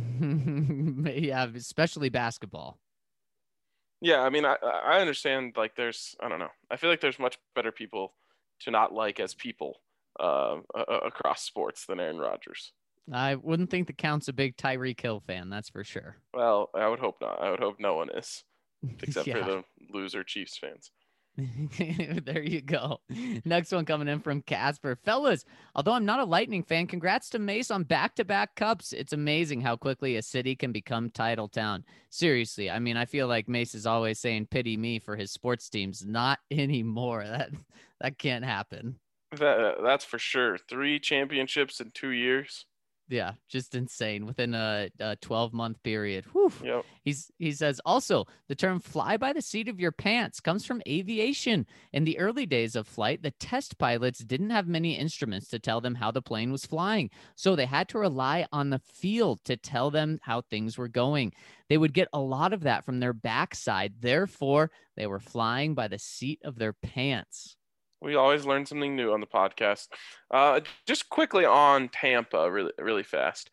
Speaker 3: Yeah, especially basketball.
Speaker 1: Yeah, I mean, I I understand, like, there's, I don't know. I feel like there's much better people to not like as people uh, across sports than Aaron Rodgers.
Speaker 3: I wouldn't think the Count's a big Tyreek Hill fan, that's for sure.
Speaker 1: Well, I would hope not. I would hope no one is, except
Speaker 3: Yeah.
Speaker 1: for the loser Chiefs fans.
Speaker 3: There you go. Next one coming in from Casper. Fellas, although I'm not a Lightning fan, congrats to Mace on back-to-back cups. It's amazing how quickly a city can become title town. Seriously, I mean, I feel like Mace is always saying pity me for his sports teams. Not anymore. That that can't happen.
Speaker 1: That That's for sure. Three championships in two years.
Speaker 3: Yeah, just insane within a, a twelve month period. Whew.
Speaker 1: Yep.
Speaker 3: He's he says also the term fly by the seat of your pants comes from aviation. In the early days of flight, the test pilots didn't have many instruments to tell them how the plane was flying. So they had to rely on the field to tell them how things were going. They would get a lot of that from their backside. Therefore, they were flying by the seat of their pants.
Speaker 1: We always learn something new on the podcast. Uh, just quickly on Tampa, really, really fast.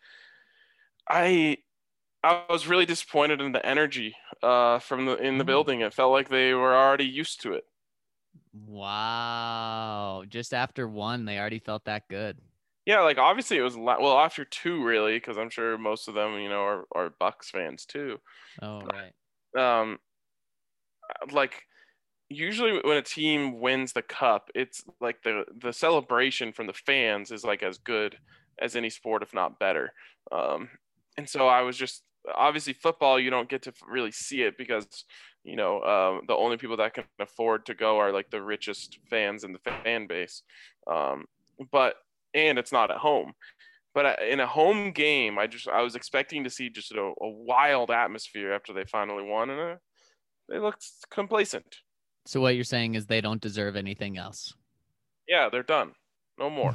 Speaker 1: I, I was really disappointed in the energy uh, from the in the building. It felt like they were already used to it.
Speaker 3: Wow! Just after one, they already felt that good.
Speaker 1: Yeah, like obviously it was well after two, really, because I'm sure most of them, you know, are are Bucks fans too.
Speaker 3: Oh right.
Speaker 1: Um, like. Usually when a team wins the cup, it's like the, the celebration from the fans is like as good as any sport, if not better. Um, and so I was just, obviously football, you don't get to really see it because, you know, uh, the only people that can afford to go are like the richest fans in the fan base. Um, but, and it's not at home. But in a home game, I just, I was expecting to see just a, a wild atmosphere after they finally won, and uh, they looked complacent.
Speaker 3: So what you're saying is they don't deserve anything else.
Speaker 1: Yeah, they're done. No more.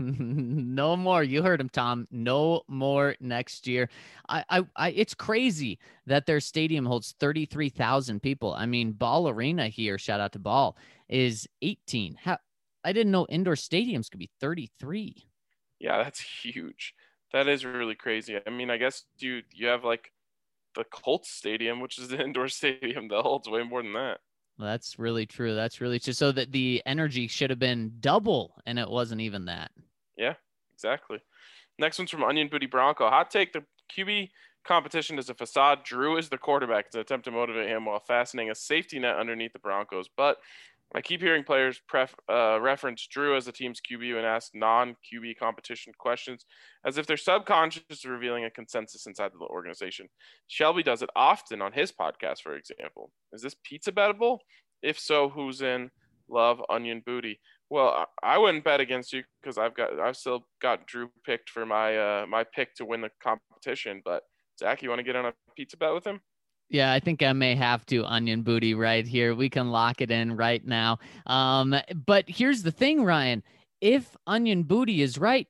Speaker 3: No more. You heard him, Tom. No more next year. I, I, I, it's crazy that their stadium holds thirty-three thousand people. I mean, Ball Arena here, shout out to Ball, is eighteen. How, I didn't know indoor stadiums could be thirty-three.
Speaker 1: Yeah, that's huge. That is really crazy. I mean, I guess you you have like the Colts Stadium, which is an indoor stadium that holds way more than that.
Speaker 3: Well, that's really true. That's really true. So that the energy should have been double, and it wasn't even that.
Speaker 1: Yeah, exactly. Next one's from Onion Booty Bronco. Hot take: the Q B competition is a facade. Drew is the quarterback to attempt to motivate him while fastening a safety net underneath the Broncos. But I keep hearing players pref, uh, reference Drew as the team's Q B and ask non-Q B competition questions as if they're subconscious revealing a consensus inside the organization. Shelby does it often on his podcast, for example. Is this pizza bettable? If so, who's in? Love, Onion Booty. Well, I wouldn't bet against you because I've got I've still got Drew picked for my uh, my pick to win the competition. But Zach, you want to get on a pizza bet with him?
Speaker 3: Yeah, I think I may have to, Onion Booty, right here. We can lock it in right now. Um, but here's the thing, Ryan. If Onion Booty is right,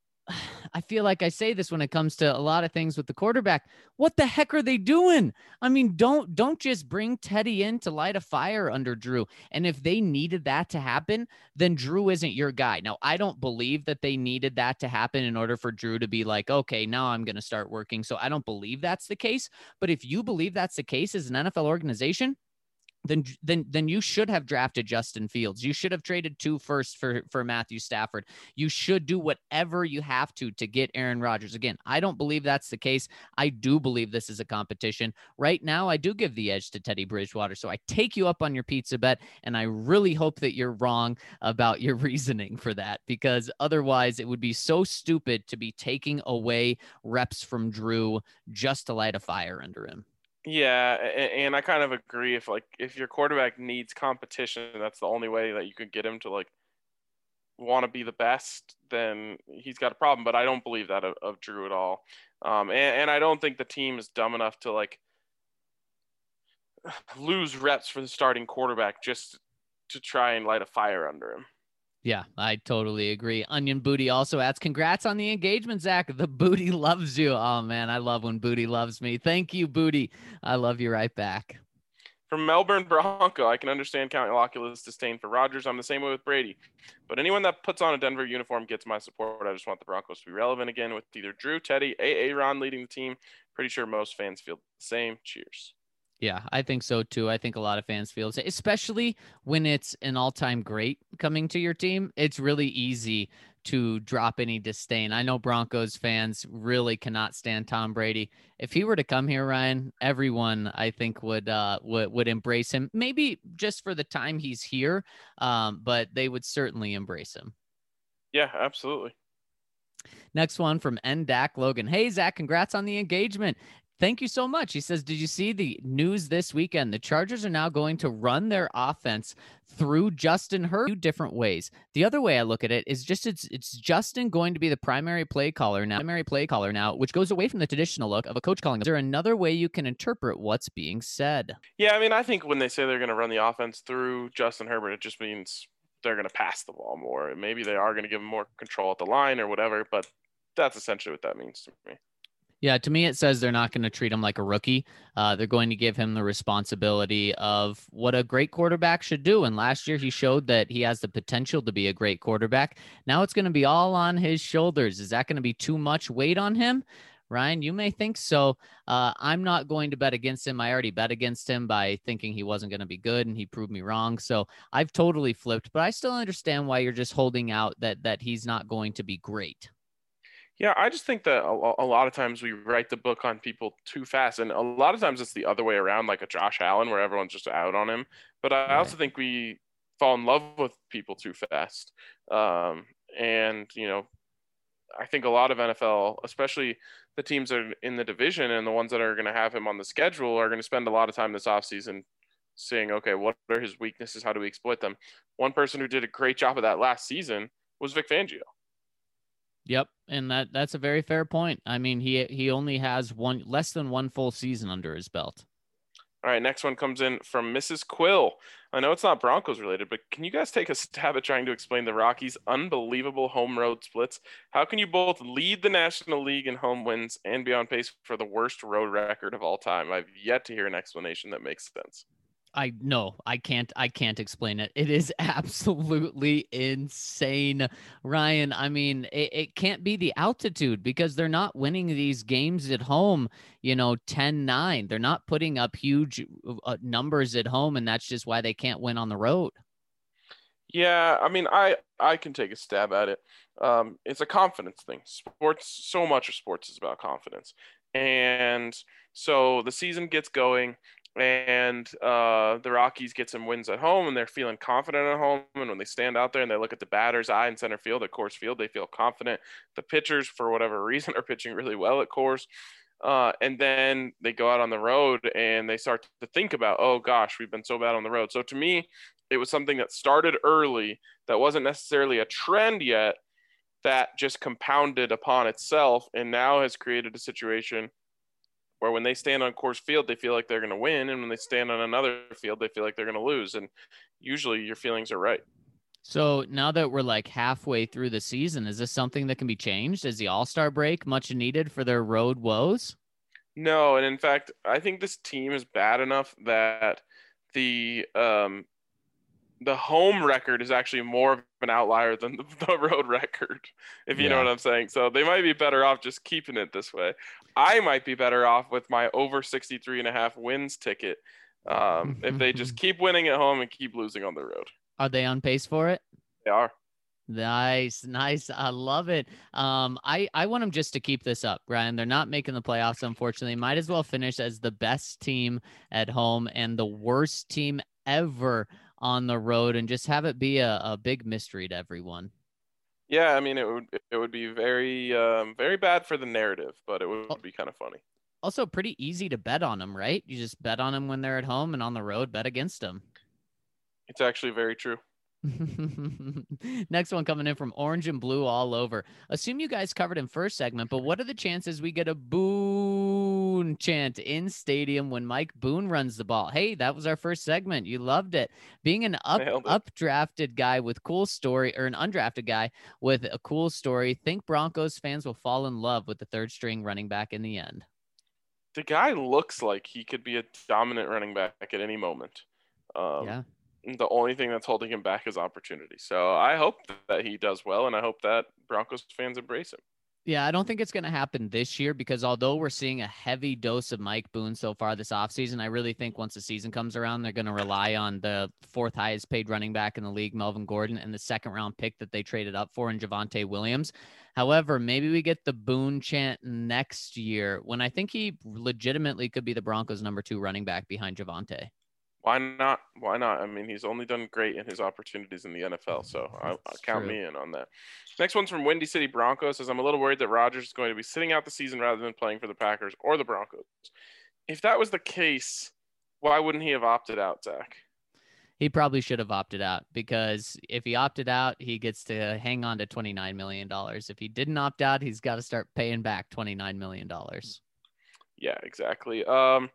Speaker 3: I feel like I say this when it comes to a lot of things with the quarterback. What the heck are they doing? I mean, don't don't just bring Teddy in to light a fire under Drew. And if they needed that to happen, then Drew isn't your guy. Now, I don't believe that they needed that to happen in order for Drew to be like, okay, now I'm going to start working. So I don't believe that's the case. But if you believe that's the case as an N F L organization, then then then you should have drafted Justin Fields. You should have traded two first for for Matthew Stafford. You should do whatever you have to to get Aaron Rodgers. Again, I don't believe that's the case. I do believe this is a competition. Right now, I do give the edge to Teddy Bridgewater. So I take you up on your pizza bet, and I really hope that you're wrong about your reasoning for that, because otherwise it would be so stupid to be taking away reps from Drew just to light a fire under him.
Speaker 1: Yeah, and I kind of agree. If like if your quarterback needs competition, that's the only way that you could get him to like want to be the best, then he's got a problem. But I don't believe that of, of Drew at all. Um, and, and I don't think the team is dumb enough to like lose reps for the starting quarterback just to try and light a fire under him.
Speaker 3: Yeah, I totally agree. Onion Booty also adds, congrats on the engagement, Zach. The Booty loves you. Oh, man, I love when Booty loves me. Thank you, Booty. I love you right back.
Speaker 1: From Melbourne Bronco, I can understand Count Locula's disdain for Rodgers. I'm the same way with Brady. But anyone that puts on a Denver uniform gets my support. I just want the Broncos to be relevant again with either Drew, Teddy, Aaron leading the team. Pretty sure most fans feel the same. Cheers.
Speaker 3: Yeah, I think so too. I think a lot of fans feel it, especially when it's an all-time great coming to your team. It's really easy to drop any disdain. I know Broncos fans really cannot stand Tom Brady. If he were to come here, Ryan, everyone I think would uh would, would embrace him. Maybe just for the time he's here, um, but they would certainly embrace him.
Speaker 1: Yeah, absolutely.
Speaker 3: Next one from N D A C Logan. Hey, Zach, congrats on the engagement. Thank you so much. He says, did you see the news this weekend? The Chargers are now going to run their offense through Justin Herbert two different ways. The other way I look at it is just it's it's Justin going to be the primary play caller now, primary play caller now, which goes away from the traditional look of a coach calling. Is there another way you can interpret what's being said?
Speaker 1: Yeah, I mean, I think when they say they're going to run the offense through Justin Herbert, it just means they're going to pass the ball more. Maybe they are going to give him more control at the line or whatever, but that's essentially what that means to me.
Speaker 3: Yeah, to me, it says they're not going to treat him like a rookie. Uh, they're going to give him the responsibility of what a great quarterback should do. And last year, he showed that he has the potential to be a great quarterback. Now it's going to be all on his shoulders. Is that going to be too much weight on him? Ryan, you may think so. Uh, I'm not going to bet against him. I already bet against him by thinking he wasn't going to be good, and he proved me wrong. So I've totally flipped, but I still understand why you're just holding out that that he's not going to be great.
Speaker 1: Yeah, I just think that a, a lot of times we write the book on people too fast. And a lot of times it's the other way around, like a Josh Allen, where everyone's just out on him. But I
Speaker 3: Right.
Speaker 1: also think we fall in love with people too fast. Um, and, you know, I think a lot of N F L, especially the teams that are in the division and the ones that are going to have him on the schedule, are going to spend a lot of time this offseason saying, okay, what are his weaknesses? How do we exploit them? One person who did a great job of that last season was Vic Fangio.
Speaker 3: Yep, and that that's a very fair point. I mean, he he only has one less than one full season under his belt.
Speaker 1: All right, next one comes in from Missus Quill. I know it's not Broncos related, but can you guys take a stab at trying to explain the Rockies' unbelievable home road splits? How can you both lead the National League in home wins and be on pace for the worst road record of all time? I've yet to hear an explanation that makes sense.
Speaker 3: I no, I can't I can't explain it. It is absolutely insane, Ryan. I mean, it, it can't be the altitude because they're not winning these games at home, you know, ten nine. They're not putting up huge uh, numbers at home, and that's just why they can't win on the road.
Speaker 1: Yeah, I mean, I I can take a stab at it. Um, it's a confidence thing. Sports, so much of sports is about confidence. And so the season gets going, and uh, the Rockies get some wins at home, and they're feeling confident at home. And when they stand out there and they look at the batter's eye in center field at Coors Field, they feel confident. The pitchers, for whatever reason, are pitching really well at Coors. Uh, and then they go out on the road and they start to think about, oh gosh, we've been so bad on the road. So to me, it was something that started early that wasn't necessarily a trend yet, that just compounded upon itself and now has created a situation where when they stand on Coors Field, they feel like they're going to win. And when they stand on another field, they feel like they're going to lose. And usually your feelings are right.
Speaker 3: So now that we're like halfway through the season, is this something that can be changed? Is the All-Star break much needed for their road woes?
Speaker 1: No. And in fact, I think this team is bad enough that the, um, the home record is actually more of an outlier than the, the road record, if you yeah. know what I'm saying. So they might be better off just keeping it this way. I might be better off with my over sixty-three and a half wins ticket um, if they just keep winning at home and keep losing on the road.
Speaker 3: Are they on pace for it?
Speaker 1: They are.
Speaker 3: Nice, nice. I love it. Um, I, I want them just to keep this up, Brian. They're not making the playoffs, unfortunately. Might as well finish as the best team at home and the worst team ever on the road, and just have it be a, a big mystery to everyone.
Speaker 1: Yeah, I mean, it would it would be very um, very bad for the narrative, but it would be kind of funny.
Speaker 3: Also, pretty easy to bet on them, right? You just bet on them when they're at home, and on the road, bet against them.
Speaker 1: It's actually very true.
Speaker 3: Next one coming in from Orange and Blue all over. Assume you guys covered in first segment, but what are the chances we get a Boone chant in stadium when Mike Boone runs the ball? Hey, that was our first segment. You loved it. Being an up updrafted guy with cool story, or an undrafted guy with a cool story, think Broncos fans will fall in love with the third string running back in the end.
Speaker 1: The guy looks like he could be a dominant running back at any moment. Um, yeah. The only thing that's holding him back is opportunity. So I hope that he does well, and I hope that Broncos fans embrace him.
Speaker 3: Yeah, I don't think it's going to happen this year because although we're seeing a heavy dose of Mike Boone so far this offseason, I really think once the season comes around, they're going to rely on the fourth highest paid running back in the league, Melvin Gordon, and the second round pick that they traded up for in Javonte Williams. However, maybe we get the Boone chant next year when I think he legitimately could be the Broncos' number two running back behind Javonte.
Speaker 1: Why not? Why not? I mean, he's only done great in his opportunities in the N F L, so I, I count true. me in on that. Next one's from Windy City Broncos. Says, I'm a little worried that Rodgers is going to be sitting out the season rather than playing for the Packers or the Broncos. If that was the case, why wouldn't he have opted out, Zach?
Speaker 3: He probably should have opted out because if he opted out, he gets to hang on to twenty-nine million dollars. If he didn't opt out, he's got to start paying back twenty-nine million dollars.
Speaker 1: Yeah, exactly. Um,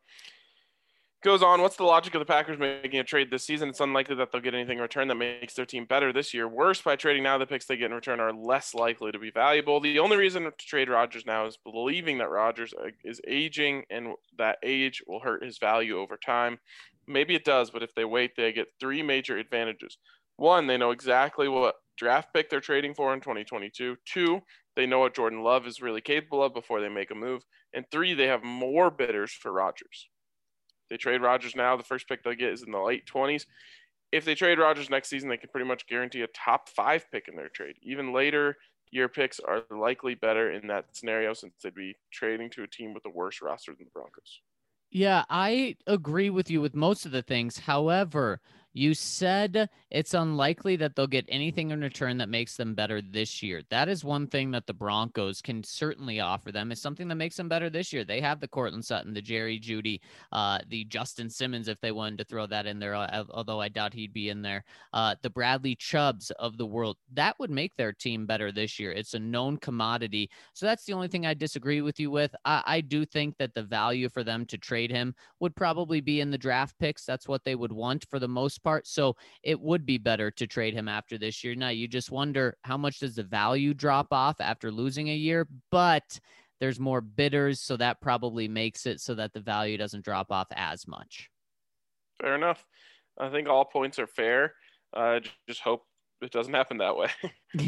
Speaker 1: Goes on, what's the logic of the Packers making a trade this season? It's unlikely that they'll get anything in return that makes their team better this year. Worse, by trading now, the picks they get in return are less likely to be valuable. The only reason to trade Rodgers now is believing that Rodgers is aging and that age will hurt his value over time. Maybe it does, but if they wait, they get three major advantages. One, they know exactly what draft pick they're trading for in twenty twenty-two. Two, they know what Jordan Love is really capable of before they make a move. And three, they have more bidders for Rodgers. They trade Rodgers now, the first pick they'll get is in the late twenties. If they trade Rodgers next season, they can pretty much guarantee a top five pick in their trade. Even later year picks are likely better in that scenario since they'd be trading to a team with a worse roster than the Broncos.
Speaker 3: Yeah, I agree with you with most of the things. However, You said it's unlikely that they'll get anything in return that makes them better this year. That is one thing that the Broncos can certainly offer them, is something that makes them better this year. They have the Cortland Sutton, the Jerry Jeudy, uh, the Justin Simmons, if they wanted to throw that in there, uh, although I doubt he'd be in there, uh, the Bradley Chubbs of the world. That would make their team better this year. It's a known commodity. So that's the only thing I disagree with you with. I, I do think that the value for them to trade him would probably be in the draft picks. That's what they would want for the most part. So it would be better to trade him after this year. Now, you just wonder how much does the value drop off after losing a year, but there's more bidders, so that probably makes it so that the value doesn't drop off as much.
Speaker 1: Fair enough. I think all points are fair. Uh, just hope it doesn't happen that way.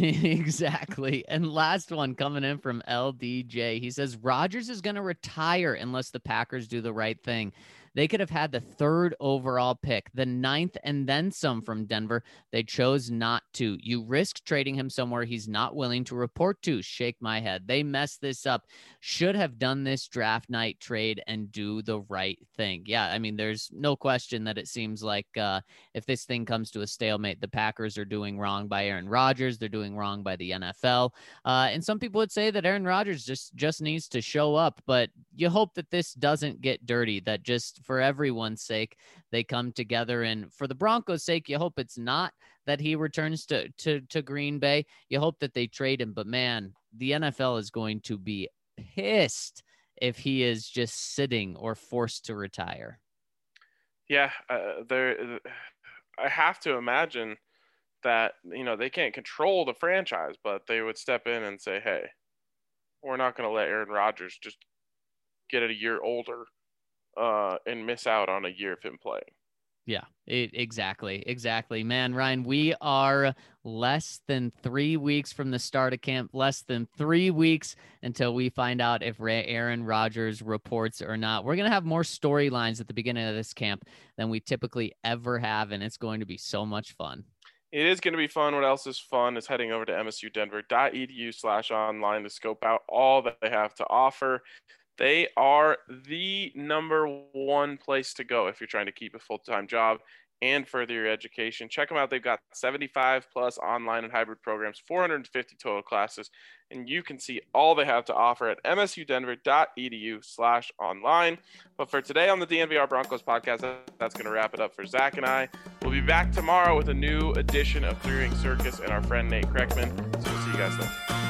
Speaker 3: Exactly. And last one coming in from L D J. He says Rodgers is going to retire unless the Packers do the right thing. They could have had the third overall pick, the ninth, and then some from Denver. They chose not to. You risk trading him somewhere he's not willing to report to. Shake my head. They messed this up. Should have done this draft night trade and do the right thing. Yeah, I mean, there's no question that it seems like uh, if this thing comes to a stalemate, the Packers are doing wrong by Aaron Rodgers. They're doing wrong by the N F L. Uh, and some people would say that Aaron Rodgers just, just needs to show up. But you hope that this doesn't get dirty, that just for everyone's sake, they come together. And for the Broncos' sake, you hope it's not that he returns to, to, to Green Bay. You hope that they trade him. But man, the N F L is going to be pissed if he is just sitting or forced to retire.
Speaker 1: Yeah, uh, there. I have to imagine that, you know, they can't control the franchise, but they would step in and say, hey, we're not going to let Aaron Rodgers just get it a year older uh, and miss out on a year of him playing.
Speaker 3: Yeah, it, exactly. Exactly. Man, Ryan, we are less than three weeks from the start of camp, less than three weeks until we find out if Aaron Rodgers reports or not. We're going to have more storylines at the beginning of this camp than we typically ever have, and it's going to be so much fun.
Speaker 1: It is going to be fun. What else is fun is heading over to msudenver.edu slash online to scope out all that they have to offer. They are the number one place to go if you're trying to keep a full-time job and further your education. Check them out. They've got seventy-five plus online and hybrid programs, four hundred fifty total classes, and you can see all they have to offer at msudenver.edu slash online. But for today on the D N V R Broncos podcast, that's going to wrap it up for Zach and I. We'll be back tomorrow with a new edition of Three Ring Circus and our friend Nate Kreckman. So we'll see you guys then.